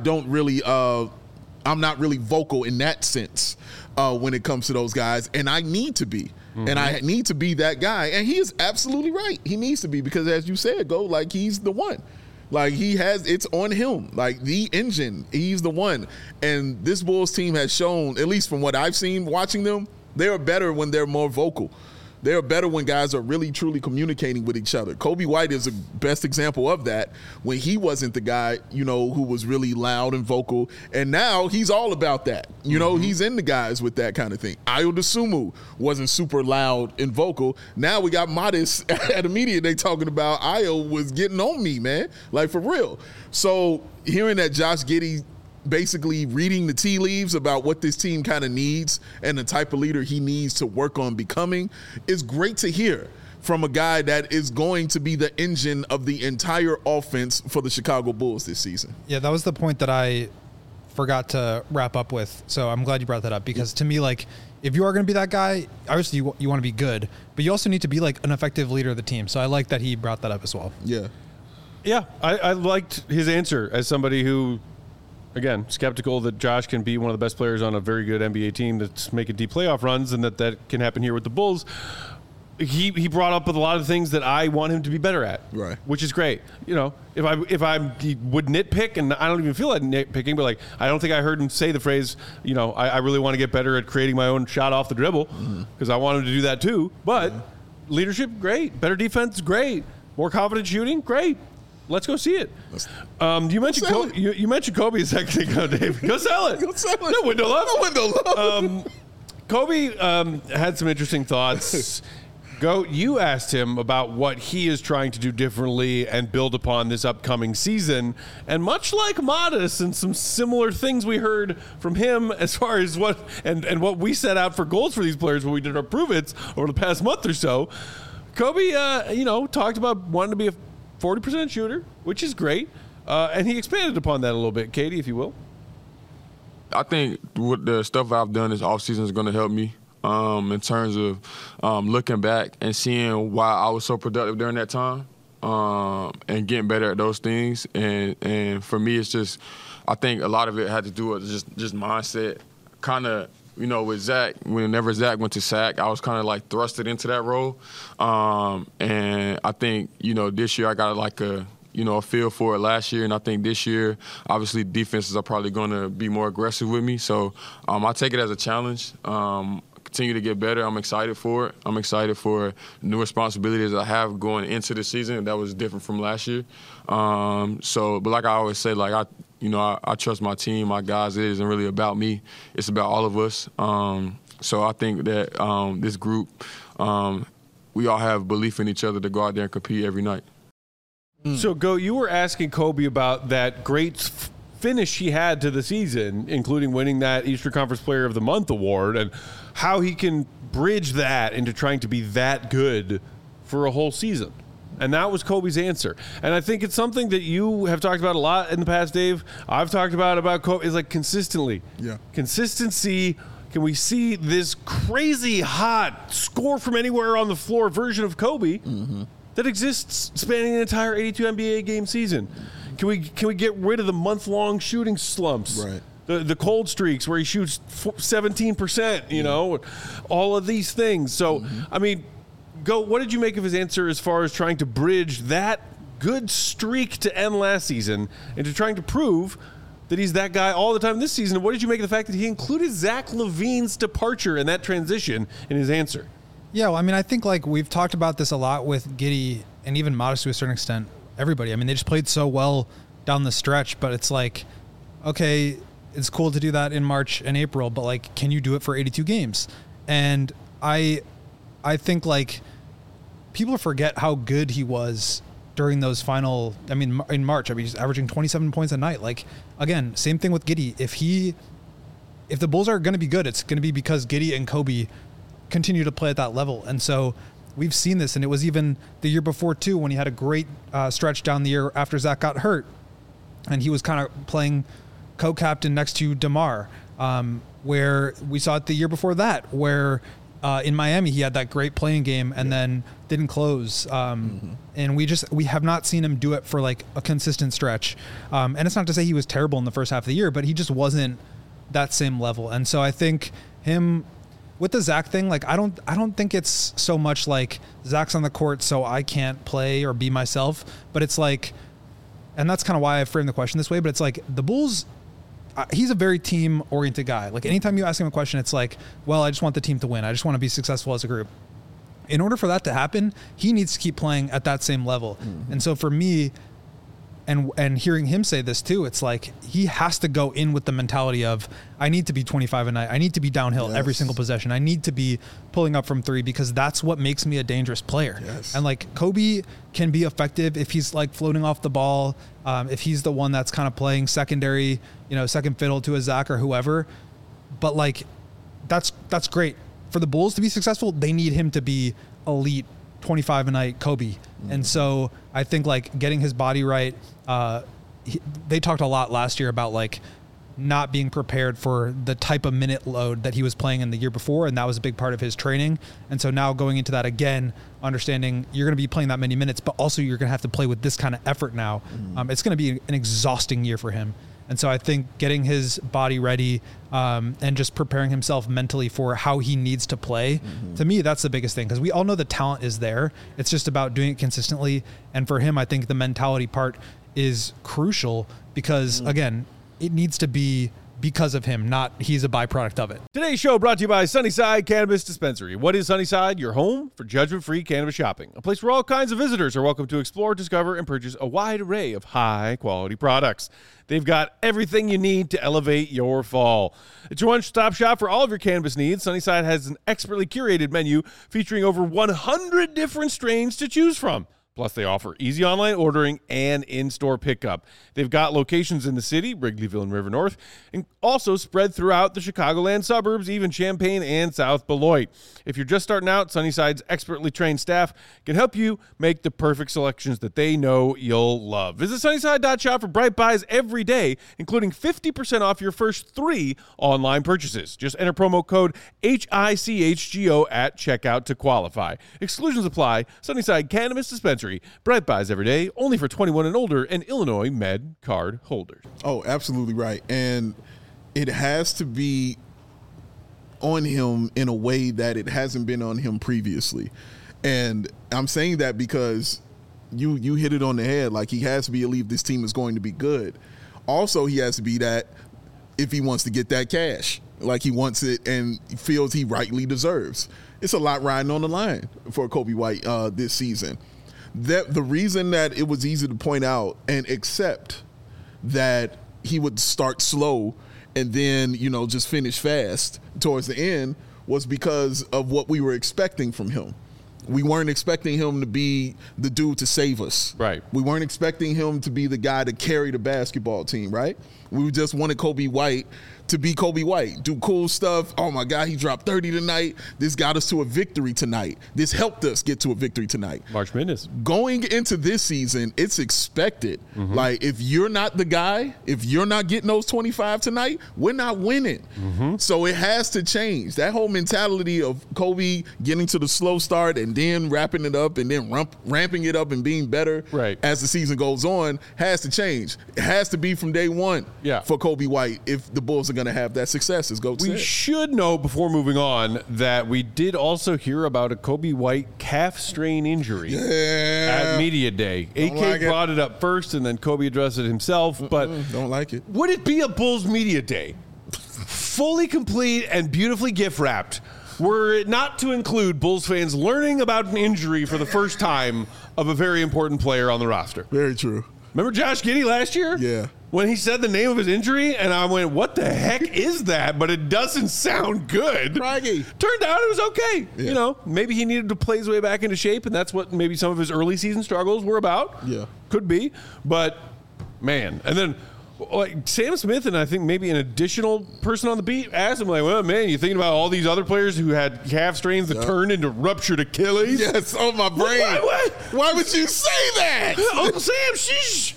I'm not really vocal in that sense when it comes to those guys, and I need to be. And I need to be that guy. And he is absolutely right. He needs to be because, as you said, like, he's the one. Like, it's on him. Like, the engine, he's the one. And this Bulls team has shown, at least from what I've seen watching them, they are better when they're more vocal. They're better when guys are really, truly communicating with each other. Kobe White is the best example of that when he wasn't the guy, you know, who was really loud and vocal. And now he's all about that. You know, he's in the guys with that kind of thing. Ayo Dosunmu wasn't super loud and vocal. Now we got Modest at a media day talking about Ayo was getting on me, man. Like, for real. So hearing that Josh Giddey basically reading the tea leaves about what this team kind of needs and the type of leader he needs to work on becoming is great to hear from a guy that is going to be the engine of the entire offense for the Chicago Bulls this season. Yeah, that was the point that I forgot to wrap up with. So I'm glad you brought that up because to me, like, if you are going to be that guy, obviously you want to be good, but you also need to be like an effective leader of the team. So I like that he brought that up as well. Yeah. Yeah, I liked his answer as somebody who, again, skeptical that Josh can be one of the best players on a very good NBA team that's making deep playoff runs and that can happen here with the Bulls. He brought up with a lot of things that I want him to be better at, right? Which is great. You know, if I would nitpick, and I don't even feel like nitpicking, but like I don't think I heard him say the phrase, you know, I really want to get better at creating my own shot off the dribble because I want him to do that too. But leadership, great. Better defense, great. more confident shooting. Great. Let's go see it. You mentioned you mentioned Kobe a second ago, Dave. Go sell it. Go sell it. No window left. No window left. Kobe had some interesting thoughts. You asked him about what he is trying to do differently and build upon this upcoming season. And much like Modest and some similar things we heard from him as far as what we set out for goals for these players when we did our prove-its over the past month or so, Kobe, talked about wanting to be a 40% shooter, which is great. And he expanded upon that a little bit. Katie, if you will. I think what the stuff I've done this offseason is going to help me. In terms of looking back and seeing why I was so productive during that time and getting better at those things. And for me, it's just, I think a lot of it had to do with just mindset. Kind of, with Zach, whenever Zach went to SAC, I was kind of like thrusted into that role. And I think, this year I got like a feel for it last year. And I think this year, obviously, defenses are probably going to be more aggressive with me. So I take it as a challenge. Continue to get better. I'm excited for it. I'm excited for new responsibilities I have going into the season that was different from last year. But like I always say, like I trust my team, my guys. It isn't really about me. It's about all of us. So I think that this group, we all have belief in each other to go out there and compete every night. So, you were asking Kobe about that great finish he had to the season, including winning that Eastern Conference Player of the Month award, and how he can bridge that into trying to be that good for a whole season. And that was Kobe's answer. And I think it's something that you have talked about a lot in the past, Dave. I've talked about Kobe, is like consistently. Yeah. Consistency. Can we see this crazy hot score from anywhere on the floor version of Kobe that exists spanning an entire 82 NBA game season? Can we get rid of the month-long shooting slumps? Right. The cold streaks where he shoots 17%, all of these things. So, I mean, what did you make of his answer as far as trying to bridge that good streak to end last season into trying to prove that he's that guy all the time this season? And what did you make of the fact that he included Zach LaVine's departure and that transition in his answer? Yeah, well, I mean, I think like we've talked about this a lot with Giddey and even Modest to a certain extent. Everybody. I mean, they just played so well down the stretch, but it's like, okay, it's cool to do that in March and April, but like, can you do it for 82 games? And I think like people forget how good he was during those final, in March, he's averaging 27 points a night. Like, again, same thing with Giddey. If the Bulls are going to be good, it's going to be because Giddey and Kobe continue to play at that level. And so we've seen this, and it was even the year before too, when he had a great stretch down the year after Zach got hurt, and he was kind of playing co-captain next to DeMar, where we saw it the year before that, where in Miami he had that great playing game and then didn't close, and we have not seen him do it for like a consistent stretch. And it's not to say he was terrible in the first half of the year, but he just wasn't that same level. And so I think him. With the Zach thing, like I don't think it's so much like Zach's on the court so I can't play or be myself, but it's like, and that's kind of why I framed the question this way, but it's like the Bulls, he's a very team-oriented guy. Like anytime you ask him a question, it's like, well, I just want the team to win. I just want to be successful as a group. In order for that to happen, he needs to keep playing at that same level. And so for me, and hearing him say this too, it's like he has to go in with the mentality of, I need to be 25 a night. I need to be downhill every single possession. I need to be pulling up from three because that's what makes me a dangerous player. And like Kobe can be effective if he's like floating off the ball, if he's the one that's kind of playing secondary, second fiddle to a Zach or whoever. But like, that's great. For the Bulls to be successful, they need him to be elite 25 a night Kobe. And so I think like getting his body right, they talked a lot last year about like not being prepared for the type of minute load that he was playing in the year before, and that was a big part of his training. And so now going into that again, understanding you're going to be playing that many minutes, but also you're going to have to play with this kind of effort now. It's going to be an exhausting year for him. And so I think getting his body ready and just preparing himself mentally for how he needs to play, to me, that's the biggest thing, because we all know the talent is there. It's just about doing it consistently. And for him, I think the mentality part is crucial because, again, it needs to be because of him, not he's a byproduct of it. Today's show brought to you by Sunnyside Cannabis Dispensary. What is Sunnyside? Your home for judgment-free cannabis shopping. A place where all kinds of visitors are welcome to explore, discover, and purchase a wide array of high-quality products. They've got everything you need to elevate your fall. It's your one-stop shop for all of your cannabis needs. Sunnyside has an expertly curated menu featuring over 100 different strains to choose from. Plus, they offer easy online ordering and in-store pickup. They've got locations in the city, Wrigleyville and River North, and also spread throughout the Chicagoland suburbs, even Champaign and South Beloit. If you're just starting out, Sunnyside's expertly trained staff can help you make the perfect selections that they know you'll love. Visit Sunnyside.shop for Bright Buys every day, including 50% off your first 3 online purchases. Just enter promo code HICHGO at checkout to qualify. Exclusions apply. Sunnyside Cannabis Dispensary. Bright Buys every day, only for 21 and older and Illinois Med card holders. Oh, absolutely right. And it has to be on him in a way that it hasn't been on him previously. And I'm saying that because you hit it on the head. Like, he has to believe this team is going to be good. Also, he has to be that if he wants to get that cash, like he wants it and feels he rightly deserves. It's a lot riding on the line for Coby White this season. The reason that it was easy to point out and accept that he would start slow and then, just finish fast towards the end was because of what we were expecting from him. We weren't expecting him to be the dude to save us. Right. We weren't expecting him to be the guy to carry the basketball team, right? We just wanted Coby White to be Coby White, do cool stuff. Oh, my God, he dropped 30 tonight. This got us to a victory tonight. This helped us get to a victory tonight. March Madness. Going into this season, it's expected. Mm-hmm. Like, if you're not the guy, if you're not getting those 25 tonight, we're not winning. Mm-hmm. So it has to change. That whole mentality of Coby getting to the slow start and then wrapping it up and then ramping it up and being better as the season goes on has to change. It has to be from day one for Coby White if the Bulls are going to have that success, as Goat said. We should know before moving on that we did also hear about a Coby White calf strain injury at Media Day. AK brought it up first, and then Coby addressed it himself. But don't like it. Would it be a Bulls Media Day? Fully complete and beautifully gift wrapped, were it not to include Bulls fans learning about an injury for the first time of a very important player on the roster. Very true. Remember Josh Giddey last year? Yeah. When he said the name of his injury, and I went, what the heck is that? But it doesn't sound good. Craggy. Turned out it was okay. Yeah. Maybe he needed to play his way back into shape, and that's what maybe some of his early season struggles were about. Yeah. Could be. But, man. And then, like, Sam Smith and I think maybe an additional person on the beat asked him, like, well, man, you thinking about all these other players who had calf strains that turned into ruptured Achilles? Yes, on my brain. Why would you say that? Uncle Sam, sheesh.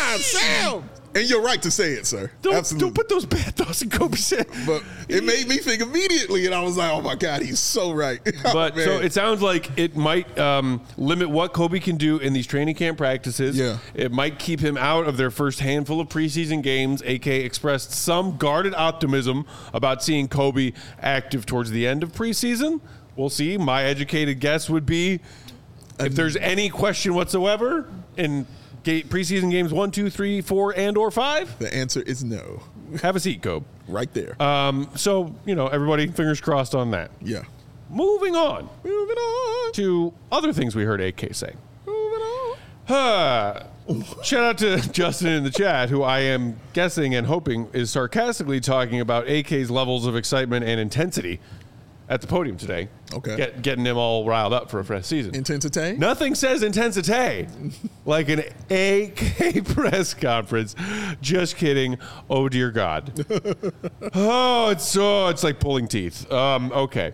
Sam. And you're right to say it, sir. Don't put those bad thoughts in Coby's head. But it made me think immediately, and I was like, oh, my God, he's so right. But so it sounds like it might limit what Coby can do in these training camp practices. Yeah. It might keep him out of their first handful of preseason games. AK expressed some guarded optimism about seeing Coby active towards the end of preseason. We'll see. My educated guess would be if there's any question whatsoever in preseason games 1, 2, 3, 4, and or 5? The answer is no. Have a seat, Cobe. Right there. So, everybody fingers crossed on that. Yeah. Moving on to other things we heard AK say. Shout out to Justin in the chat, who I am guessing and hoping is sarcastically talking about AK's levels of excitement and intensity at the podium today. Okay. Getting him all riled up for a fresh season. Intensity? Nothing says intensity like an AK press conference. Just kidding. Oh, dear God. It's like pulling teeth. Okay.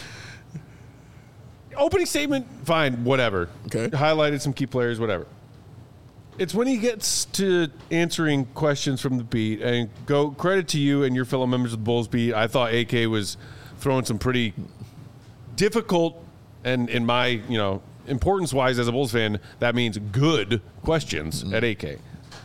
Opening statement, fine, whatever. Okay. Highlighted some key players, whatever. It's when he gets to answering questions from the beat, and go credit to you and your fellow members of the Bulls beat. I thought AK was throwing some pretty difficult and, in my, importance-wise as a Bulls fan, that means good questions at AK.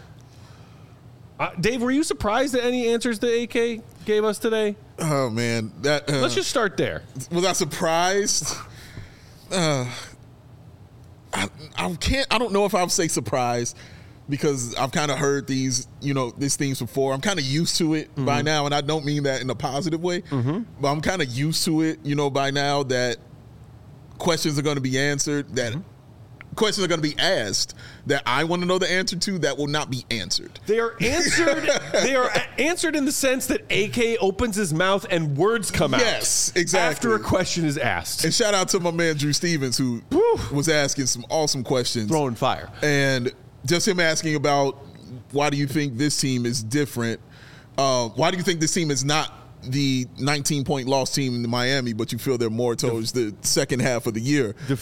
Dave, were you surprised at any answers that AK gave us today? Oh, man. Let's just start there. Was I surprised? I don't know if I would say surprised, because I've kind of heard these things before. I'm kind of used to it by now, and I don't mean that in a positive way, but I'm kind of used to it, by now that questions are going to be answered, that questions are going to be asked that I want to know the answer to that will not be answered. They are answered. They are answered in the sense that AK opens his mouth and words come out. Yes, exactly. After a question is asked. And shout out to my man Drew Stevens, who was asking some awesome questions. Throwing fire. And just him asking about why do you think this team is different? Why do you think this team is not the 19-point loss team in Miami, but you feel they're more towards the second half of the year? The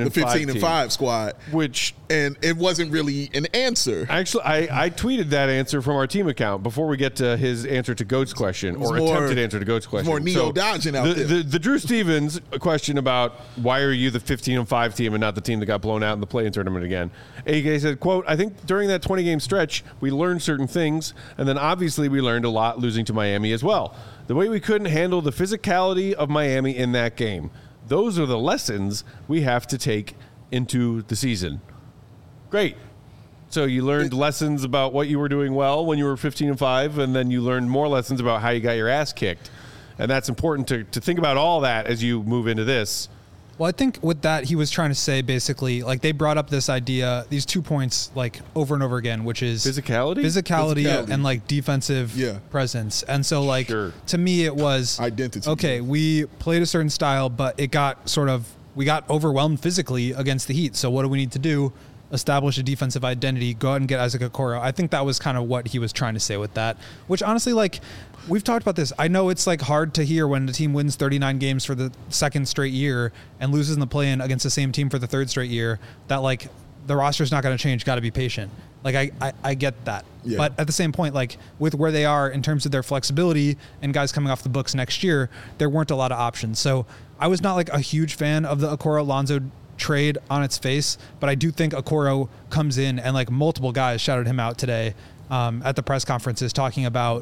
15-5 squad. And it wasn't really an answer. Actually, I tweeted that answer from our team account before we get to his answer to Goat's question, or attempted answer to Goat's question. More neo-dodging out there. The Drew Stevens question about why are you the 15-5 team and not the team that got blown out in the play-in tournament again. AK said, quote, I think during that 20-game stretch, we learned certain things, and then obviously we learned a lot losing to Miami as well. The way we couldn't handle the physicality of Miami in that game. Those are the lessons we have to take into the season. Great. So you learned lessons about what you were doing well when you were 15-5, and then you learned more lessons about how you got your ass kicked. And that's important to think about all that as you move into this. Well, I think with that, he was trying to say basically, like, they brought up this idea, these 2 points, like, over and over again, which is physicality and like defensive presence. And so, like, to me, it was identity. Okay, we played a certain style, but it got we got overwhelmed physically against the Heat. So what do we need to do? Establish a defensive identity, go out and get Isaac Okoro. I think that was kind of what he was trying to say with that, which honestly, like, we've talked about this. I know it's like hard to hear when the team wins 39 games for the second straight year and loses in the play-in against the same team for the third straight year, that like the roster's not going to change. Got to be patient. Like I get that. Yeah. But at the same point, like with where they are in terms of their flexibility and guys coming off the books next year, there weren't a lot of options. So I was not like a huge fan of the Okoro-Lonzo trade on its face, but I do think Okoro comes in, and like multiple guys shouted him out today at the press conferences talking about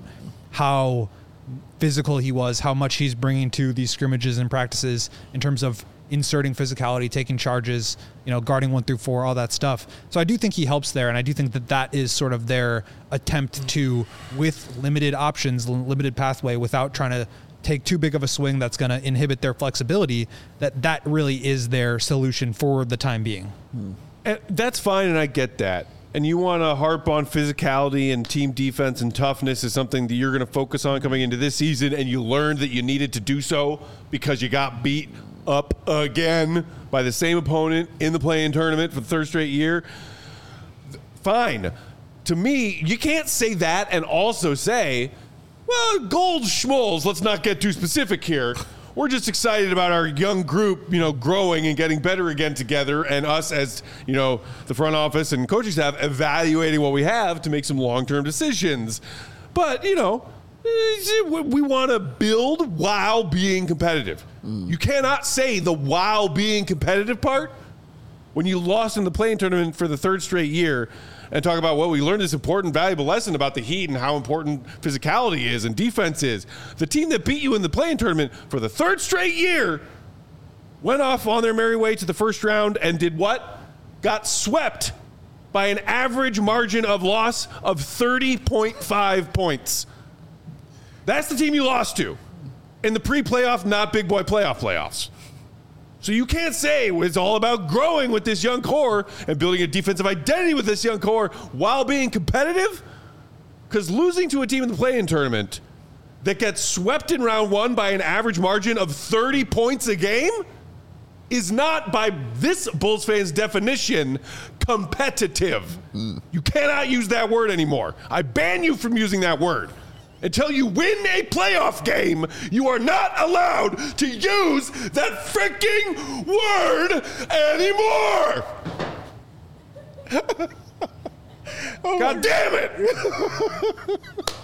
how physical he was, how much he's bringing to these scrimmages and practices in terms of inserting physicality, taking charges, guarding 1 through 4, all that stuff. So I do think he helps there, and I do think that is sort of their attempt to, with limited options, limited pathway, without trying to take too big of a swing that's going to inhibit their flexibility, that really is their solution for the time being. And that's fine, and I get that. And you want to harp on physicality and team defense and toughness is something that you're going to focus on coming into this season, and you learned that you needed to do so because you got beat up again by the same opponent in the play-in tournament for the third straight year. Fine. To me, you can't say that and also say, well, gold schmoles, let's not get too specific here. We're just excited about our young group, growing and getting better again together, and us as, the front office and coaching staff evaluating what we have to make some long-term decisions. But, we want to build while being competitive. You cannot say the while being competitive part when you lost in the play-in tournament for the third straight year and talk about, we learned this important, valuable lesson about the Heat and how important physicality is and defense is. The team that beat you in the play-in tournament for the third straight year went off on their merry way to the first round and did what? Got swept by an average margin of loss of 30.5 points. That's the team you lost to in the pre-playoff, not big boy playoffs. So you can't say it's all about growing with this young core and building a defensive identity with this young core while being competitive, because losing to a team in the play-in tournament that gets swept in round 1 by an average margin of 30 points a game is not, by this Bulls fans' definition, competitive. You cannot use that word anymore. I ban you from using that word. Until you win a playoff game, you are not allowed to use that freaking word anymore. God damn it.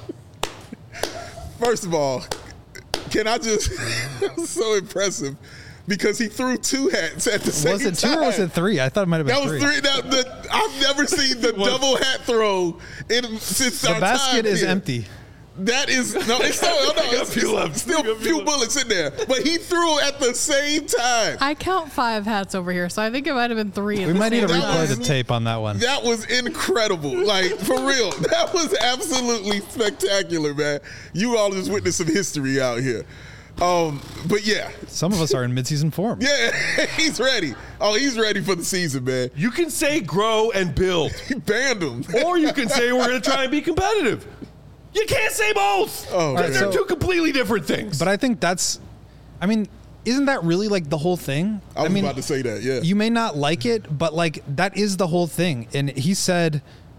First of all, can I just, that was so impressive because he threw 2 hats at the same time. Was it 2 or was it 3? I thought it might have been 3. That was 3. I've never seen the double hat throw since our time. The basket is here. empty. That is no. It's still a few bullets in there, but he threw at the same time. I count 5 hats over here, so I think it might have been 3. We might need to That replay was- the tape on that one. That was incredible. Like, for real. That was absolutely spectacular, man. You all just witnessed some history out here. But yeah. Some of us are in midseason form. Yeah, he's ready. Oh, he's ready for the season, man. You can say grow and build, He banned him. or you can say we're going to try and be competitive. You can't say both. Oh, Because man. they're two completely different things. But I think that's, I mean, isn't that really like the whole thing? I was about to say that, yeah. You may not like it, but like that is the whole thing. And he said,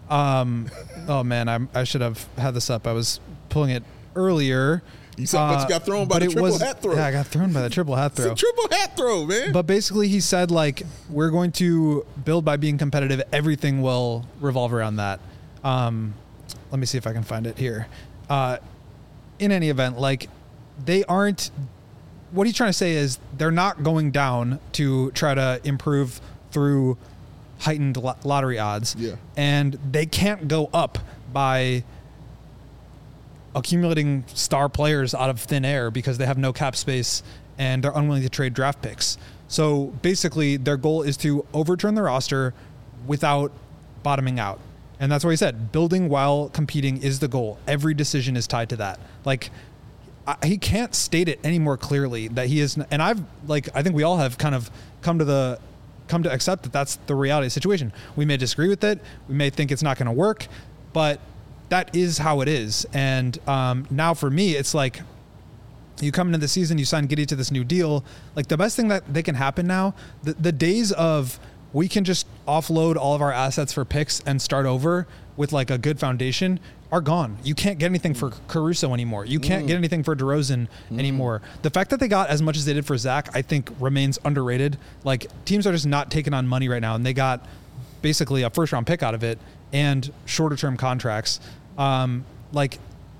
oh man, I should have had this up. I was pulling it earlier. You saw, but you got thrown by but the it triple was- hat throw. Yeah, I got thrown by the triple hat It's a throw. triple hat throw, man. But basically, he said, like, we're going to build by being competitive. Everything will revolve around that. Let me see if I can find it here. In any event, like, they aren't. What he's trying to say is they're not going down to try to improve through heightened lottery odds. Yeah. And they can't go up by accumulating star players out of thin air because they have no cap space and they're unwilling to trade draft picks. So basically their goal is to overturn the roster without bottoming out. And that's what he said. Building while competing is the goal. Every decision is tied to that. Like, he can't state it any more clearly that he is. And I think we all have kind of come to accept that that's the reality of the situation. We may disagree with it. We may think it's not going to work, but that is how it is. And now for me, it's like you come into the season, you sign Giddey to this new deal. Like, the best thing that they can happen now, the days of we can just offload all of our assets for picks and start over with like a good foundation are gone. You can't get anything for Caruso anymore. You can't get anything for DeRozan anymore. The fact that they got as much as they did for Zach, I think remains underrated. Like, teams are just not taking on money right now, and they got basically a first round pick out of it and shorter term contracts. Like,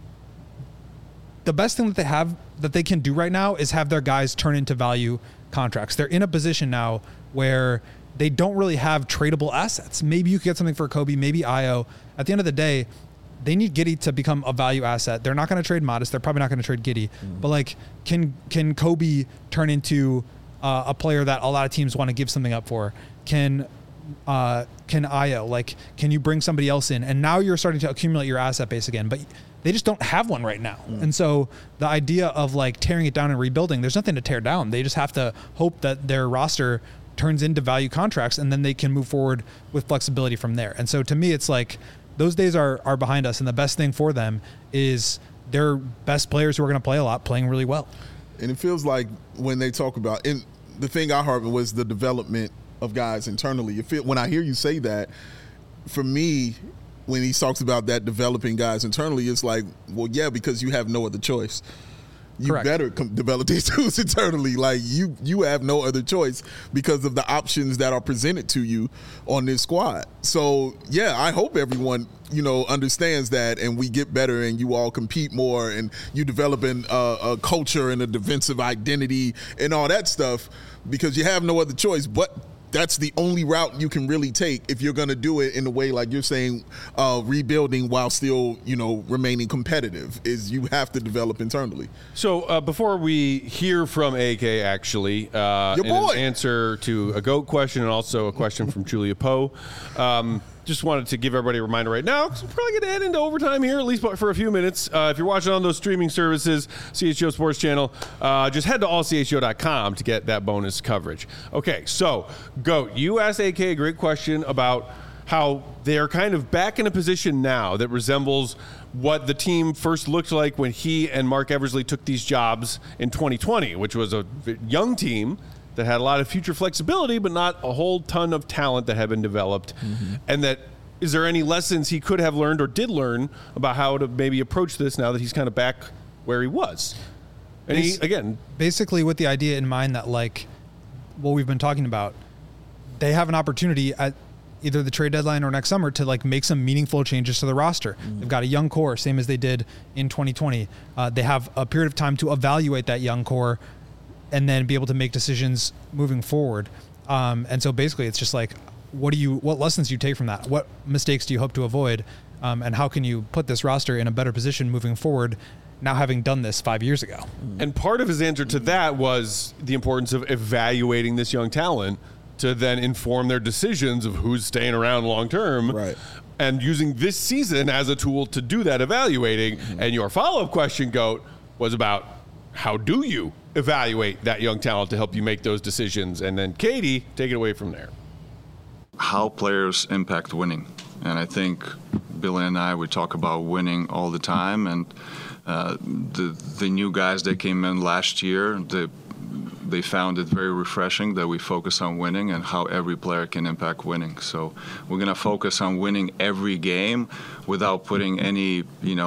the best thing that they can do right now is have their guys turn into value contracts. They're in a position now where they don't really have tradable assets. Maybe you could get something for Kobe, maybe Io. At the end of the day, they need Giddey to become a value asset. They're not going to trade Modest. They're probably not going to trade Giddey. But like, can Kobe turn into a player that a lot of teams want to give something up for? Can Io, like, can you bring somebody else in? And now you're starting to accumulate your asset base again, but they just don't have one right now. And so the idea of like tearing it down and rebuilding, there's nothing to tear down. They just have to hope that their roster turns into value contracts, and then they can move forward with flexibility from there. And so to me, it's like those days are behind us, and the best thing for them is their best players who are going to play a lot playing really well. And it feels like when they talk about, and the thing I heard was the development of guys internally. When I hear you say that, for me, when he talks about that developing guys internally, it's like, well, yeah, because you have no other choice. You Correct. better develop these dudes internally. Like, you have no other choice because of the options that are presented to you on this squad. So, yeah, I hope everyone, understands that, and we get better and you all compete more and you develop a culture and a defensive identity and all that stuff, because you have no other choice. But that's the only route you can really take if you're going to do it in a way like you're saying, rebuilding while still, remaining competitive, is you have to develop internally. So before we hear from AK, actually, in boy. an answer to a GOAT question and also a question from Julia Poe, just wanted to give everybody a reminder right now, because we're probably going to head into overtime here, at least for a few minutes. If you're watching on those streaming services, CHGO Sports Channel, just head to allchgo.com to get that bonus coverage. Okay, so, GOAT, you asked AK a great question about how they're kind of back in a position now that resembles what the team first looked like when he and Mark Eversley took these jobs in 2020, which was a young team that had a lot of future flexibility, but not a whole ton of talent that had been developed. And that, is there any lessons he could have learned or did learn about how to maybe approach this now that he's kind of back where he was? And he, again, Basically with the idea in mind that, like, what we've been talking about, they have an opportunity at either the trade deadline or next summer to like make some meaningful changes to the roster. They've got a young core, same as they did in 2020. They have a period of time to evaluate that young core and then be able to make decisions moving forward. And so basically it's just like, what lessons do you take from that? What mistakes do you hope to avoid? And how can you put this roster in a better position moving forward, now having done this 5 years ago? And part of his answer to that was the importance of evaluating this young talent to then inform their decisions of who's staying around long term. Right. And using this season as a tool to do that evaluating. And your follow-up question, Goat, was about how do you evaluate that young talent to help you make those decisions? And then Katie, take it away from there. How players impact winning. And I think Billy and I, we talk about winning all the time. And the new guys that came in last year, they found it very refreshing that we focus on winning and how every player can impact winning. So we're going to focus on winning every game without putting any,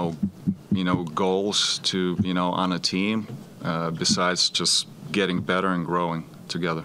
goals to, on a team besides just getting better and growing together.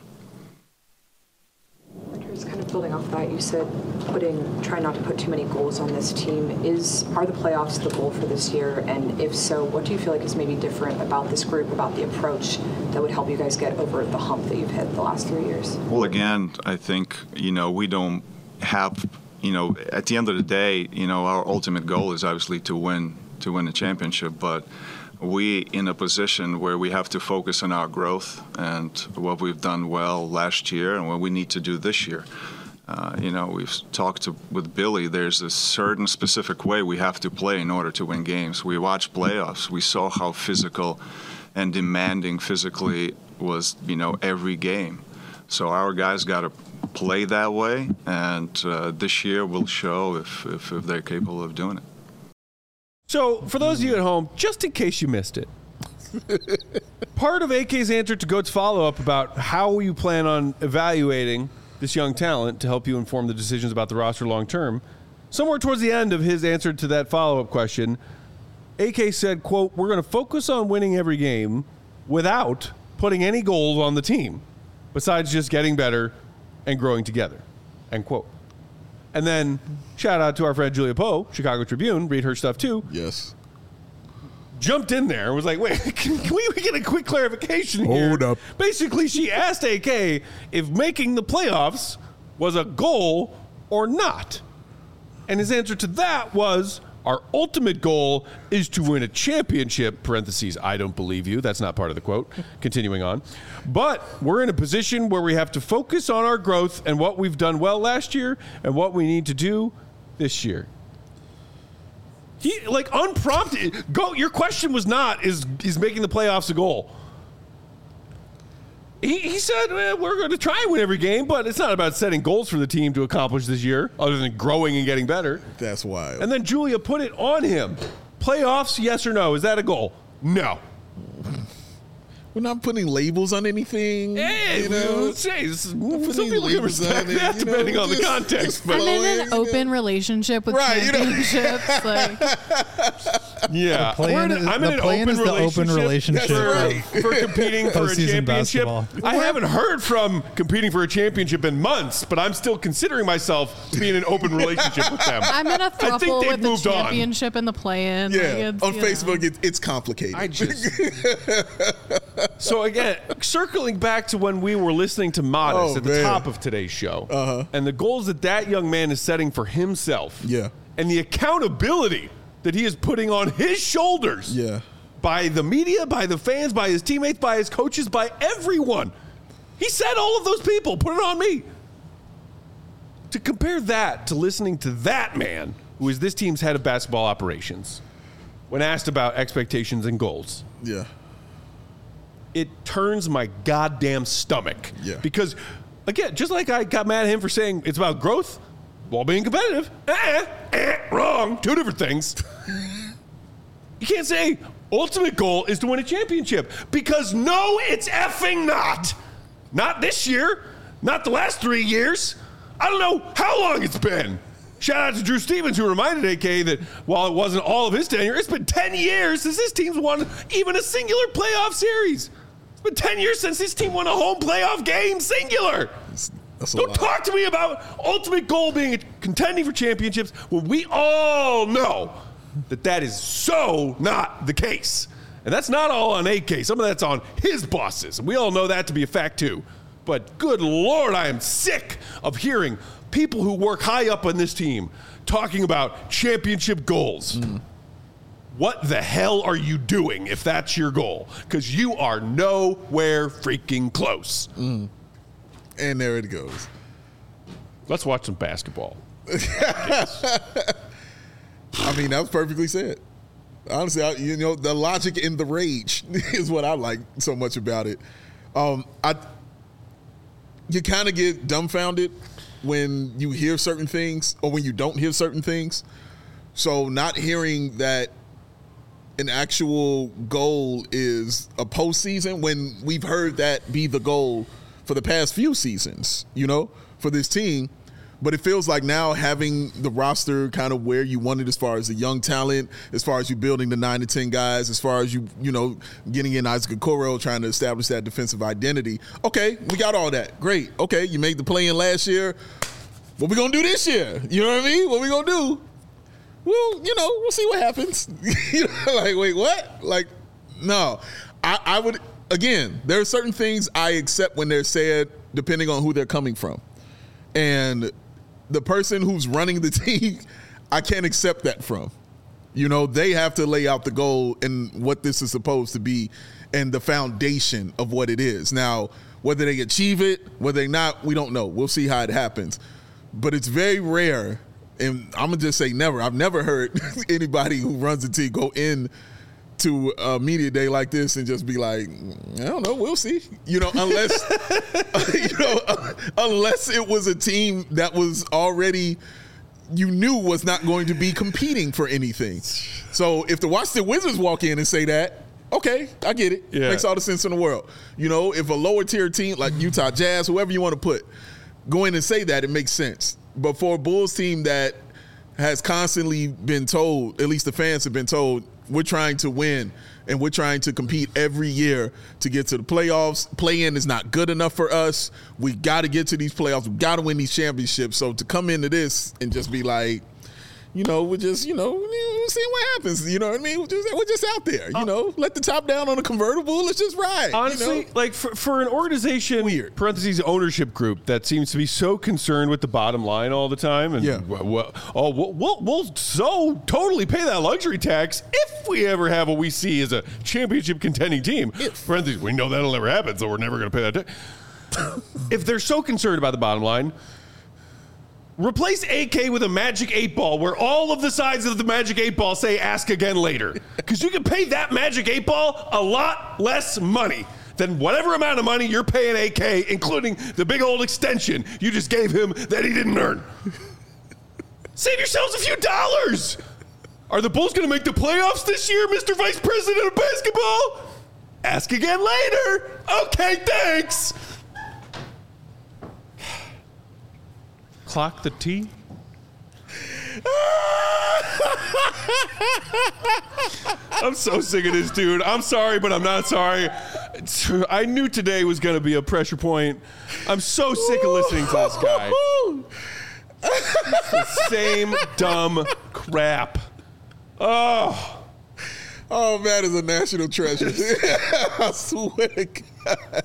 Just kind of building off that, you said trying not to put too many goals on this team. Are the playoffs the goal for this year? And if so, what do you feel like is maybe different about this group, about the approach that would help you guys get over the hump that you've hit the last 3 years? Well, again, I think, we don't have, at the end of the day, our ultimate goal is obviously to win a championship, but we in a position where we have to focus on our growth and what we've done well last year and what we need to do this year. We've talked with Billy, there's a certain specific way we have to play in order to win games. We watched playoffs. We saw how physical and demanding physically was, every game. So our guys got to play that way, and this year will show if they're capable of doing it. So, for those of you at home, just in case you missed it, part of AK's answer to Goat's follow-up about how you plan on evaluating this young talent to help you inform the decisions about the roster long-term, somewhere towards the end of his answer to that follow-up question, AK said, quote, "We're going to focus on winning every game without putting any goals on the team, besides just getting better and growing together," end quote. And then, shout out to our friend Julia Poe, Chicago Tribune, read her stuff too. Yes. Jumped in there and was like, wait, can we get a quick clarification here? Hold up. Basically, she asked AK if making the playoffs was a goal or not. And his answer to that was, our ultimate goal is to win a championship, parentheses, I don't believe you. That's not part of the quote. Continuing on. But we're in a position where we have to focus on our growth and what we've done well last year and what we need to do this year. He, unprompted. Your question was not, is making the playoffs a goal? He said, we're going to try and win every game, but it's not about setting goals for the team to accomplish this year, other than growing and getting better. That's wild. And then Julia put it on him. Playoffs, yes or no? Is that a goal? No. We're not putting labels on anything. Hey, some people can respect that depending on the context. I'm in an open relationship with championships. Yeah. I'm in an open relationship for competing for a championship. Basketball. I haven't heard from competing for a championship in months, but I'm still considering myself to be in an open relationship with them. I'm in a throuple with the championship and the play-in. Yeah, on Facebook, it's complicated. So again, circling back to when we were listening to Modest at the top of today's show, and the goals that young man is setting for himself, and the accountability that he is putting on his shoulders, by the media, by the fans, by his teammates, by his coaches, by everyone. He said all of those people, put it on me. To compare that to listening to that man, who is this team's head of basketball operations, when asked about expectations and goals. Yeah. It turns my goddamn stomach. Yeah. Because, again, just like I got mad at him for saying it's about growth while being competitive, wrong. Two different things. You can't say ultimate goal is to win a championship, because no, it's effing not. Not this year. Not the last 3 years. I don't know how long it's been. Shout out to Drew Stevens, who reminded AK that while it wasn't all of his tenure, it's been 10 years since this team's won even a singular playoff series. It's been 10 years since this team won a home playoff game, singular. Don't talk to me about ultimate goal being contending for championships when we all know that is so not the case. And that's not all on AK. Some of that's on his bosses. And we all know that to be a fact, too. But good Lord, I am sick of hearing people who work high up on this team talking about championship goals. What the hell are you doing if that's your goal? Because you are nowhere freaking close. And there it goes. Let's watch some basketball. I mean, that was perfectly said. Honestly, the logic in the rage is what I like so much about it. You kind of get dumbfounded when you hear certain things or when you don't hear certain things. So not hearing that an actual goal is a postseason when we've heard that be the goal for the past few seasons, for this team. But it feels like now having the roster kind of where you want it as far as the young talent, as far as you building the 9 to 10 guys, as far as you getting in Isaac Okoro, trying to establish that defensive identity. Okay, we got all that. Great. Okay, you made the play-in last year. What we going to do this year? You know what I mean? What we going to do? Well, we'll see what happens. Like, wait, what? Like, no. I would, again, there are certain things I accept when they're said depending on who they're coming from. And the person who's running the team, I can't accept that from. They have to lay out the goal and what this is supposed to be and the foundation of what it is. Now, whether they achieve it, whether they not, we don't know. We'll see how it happens. But it's very rare, and I'm going to just say never. I've never heard anybody who runs the team go in to a media day like this and just be like, I don't know, we'll see. Unless unless it was a team that was already was not going to be competing for anything. So if the Washington Wizards walk in and say that, okay, I get it. Yeah. Makes all the sense in the world. If a lower tier team like Utah Jazz, whoever you want to put, go in and say that, it makes sense. But for a Bulls team that has constantly been told, at least the fans have been told, we're trying to win and we're trying to compete every year to get to the playoffs. Play-in is not good enough for us. We got to get to these playoffs. We got to win these championships. So to come into this and just be like, we're just, seeing what happens. You know what I mean? We're just out there, let the top down on a convertible. Let's just ride. Honestly, like for an organization, parentheses ownership group that seems to be so concerned with the bottom line all the time. And we'll so totally pay that luxury tax if we ever have what we see as a championship contending team. Parentheses, we know that'll never happen, so we're never going to pay that tax. If they're so concerned about the bottom line, replace AK with a magic 8 ball where all of the sides of the magic 8 ball say ask again later. Because you can pay that magic 8 ball a lot less money than whatever amount of money you're paying AK, including the big old extension you just gave him that he didn't earn. Save yourselves a few dollars. Are the Bulls going to make the playoffs this year, Mr. Vice President of Basketball? Ask again later. Okay, thanks. Clock the T. I'm so sick of this dude. I'm sorry, but I'm not sorry. I knew today was going to be a pressure point. I'm so sick of listening to this guy. It's the same dumb crap. Oh, man, is a national treasure. I swear to God.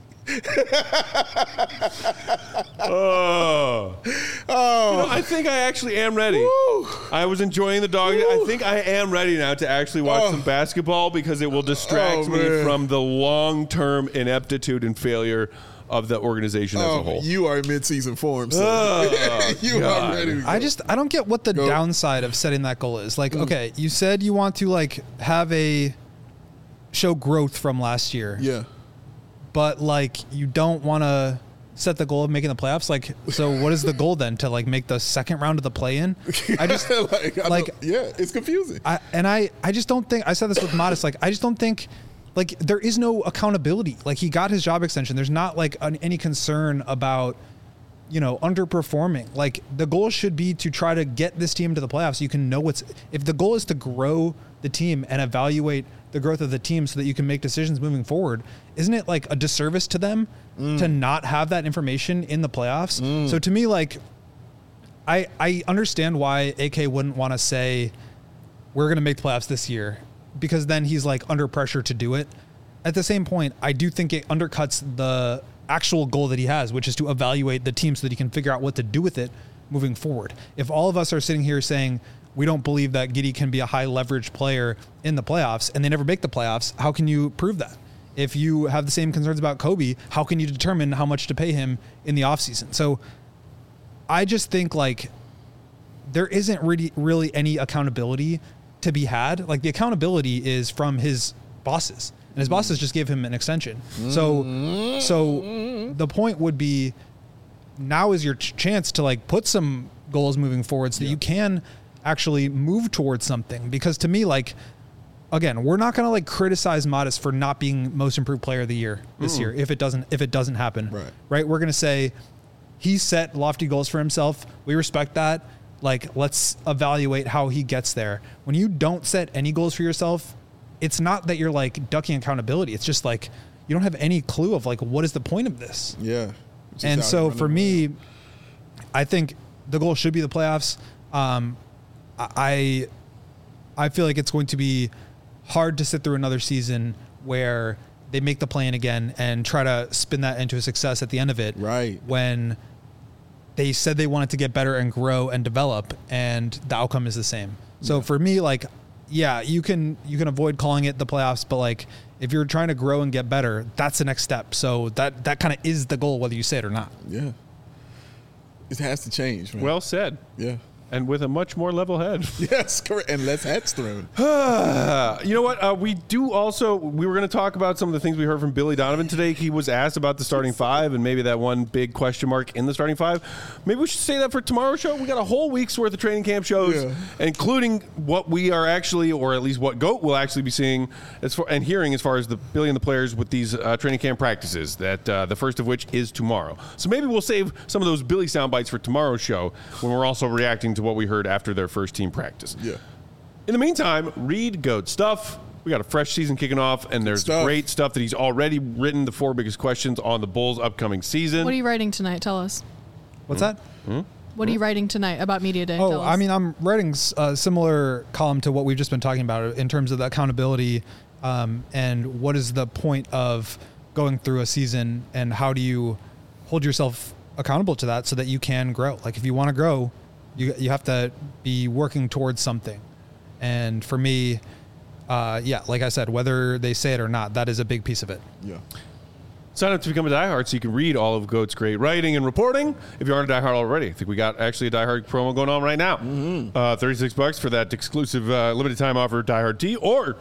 I think I actually am ready. Woo. I was enjoying the dog. Woo. I think I am ready now to actually watch some basketball because it will distract me from the long-term ineptitude and failure of the organization as a whole. You are in mid-season form, so you are ready to go. I don't get what the downside of setting that goal is. Like, okay, you said you want to have show growth from last year. Yeah. But you don't want to set the goal of making the playoffs. So what is the goal then? To make the second round of the play-in? I just it's confusing. I just don't think, I said this with Modest, I just don't think there is no accountability. He got his job extension. There's not any concern about, underperforming. The goal should be to try to get this team to the playoffs. So you can know if the goal is to grow the team and evaluate the growth of the team so that you can make decisions moving forward, isn't it a disservice to them to not have that information in the playoffs? So to me, I understand why AK wouldn't want to say we're going to make the playoffs this year, because then he's under pressure to do it. At the same point, I do think it undercuts the actual goal that he has, which is to evaluate the team so that he can figure out what to do with it moving forward. If all of us are sitting here saying we don't believe that Giddey can be a high leverage player in the playoffs and they never make the playoffs, how can you prove that? If you have the same concerns about Kobe, how can you determine how much to pay him in the offseason? So I just think like there isn't really any accountability to be had. Like the accountability is from his bosses, and his bosses just gave him an extension. So the point would be now is your chance to like put some goals moving forward so that you can actually move towards something. Because to me, like, again, we're not going to like criticize Modest for not being most improved player of the year this year if it doesn't happen. Right? We're going to say he set lofty goals for himself. We respect that. Like, let's evaluate how he gets there. When you don't set any goals for yourself, it's not that you're like ducking accountability. It's just like you don't have any clue of like what is the point of this. Yeah. And so for me, I think the goal should be the playoffs. I feel like it's going to be hard to sit through another season where they make the play-in again and try to spin that into a success at the end of it. Right. When they said they wanted to get better and grow and develop, and the outcome is the same. So for me, like, yeah, you can avoid calling it the playoffs, but like if you're trying to grow and get better, that's the next step. So that kind of is the goal, whether you say it or not. Yeah. It has to change, man. Well said. Yeah. And with a much more level head. Yes, correct. And less hats thrown. You know what? We were going to talk about some of the things we heard from Billy Donovan today. He was asked about the starting five and maybe that one big question mark in the starting five. Maybe we should say that for tomorrow's show. We got a whole week's worth of training camp shows, including what we are actually, or at least what GOAT will actually be seeing and hearing as far as the Billy and the players with these training camp practices, that the first of which is tomorrow. So maybe we'll save some of those Billy sound bites for tomorrow's show when we're also reacting to what we heard after their first team practice. Yeah. In the meantime, read GOAT stuff. We got a fresh season kicking off, and there's great stuff that he's already written, the 4 biggest questions on the Bulls' upcoming season. What are you writing tonight? Tell us. What's that? What are you writing tonight about Media Day? Oh, I mean, I'm writing a similar column to what we've just been talking about in terms of the accountability and what is the point of going through a season and how do you hold yourself accountable to that so that you can grow. Like if you want to grow, you have to be working towards something. And for me, like I said, whether they say it or not, that is a big piece of it. Yeah. Sign up to become a diehard so you can read all of GOAT's great writing and reporting. If you aren't a diehard already, I think we got actually a diehard promo going on right now. $36 for that exclusive limited time offer diehard tee, or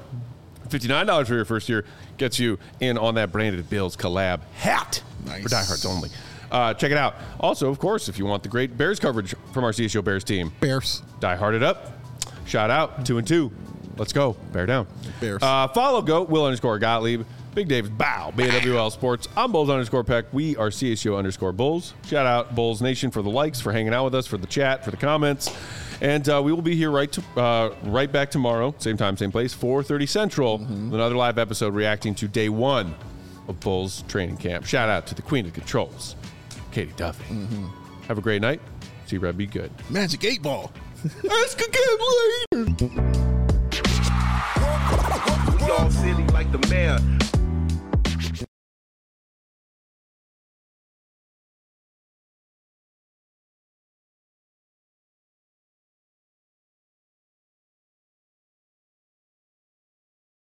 $59 for your first year gets you in on that branded Bills collab hat for diehards only. Check it out. Also, of course, if you want the great Bears coverage from our CSO Bears team, Bears, Die Hearted Up. Shout out 2-2. Let's go. Bear down. Bears. Follow GOAT, Will_Gottlieb, Big Dave's Bow, BWL Sports. I'm Bulls_Peck. We are CSO_Bulls. Shout out Bulls Nation for the likes, for hanging out with us, for the chat, for the comments. And we will be here right back tomorrow, same time, same place, 4:30 Central, with another live episode reacting to day 1 of Bulls training camp. Shout out to the Queen of Controls, Katie Duffy. Have a great night. See Red, be good. Magic 8 Ball. Ask again later. We all silly like the mayor.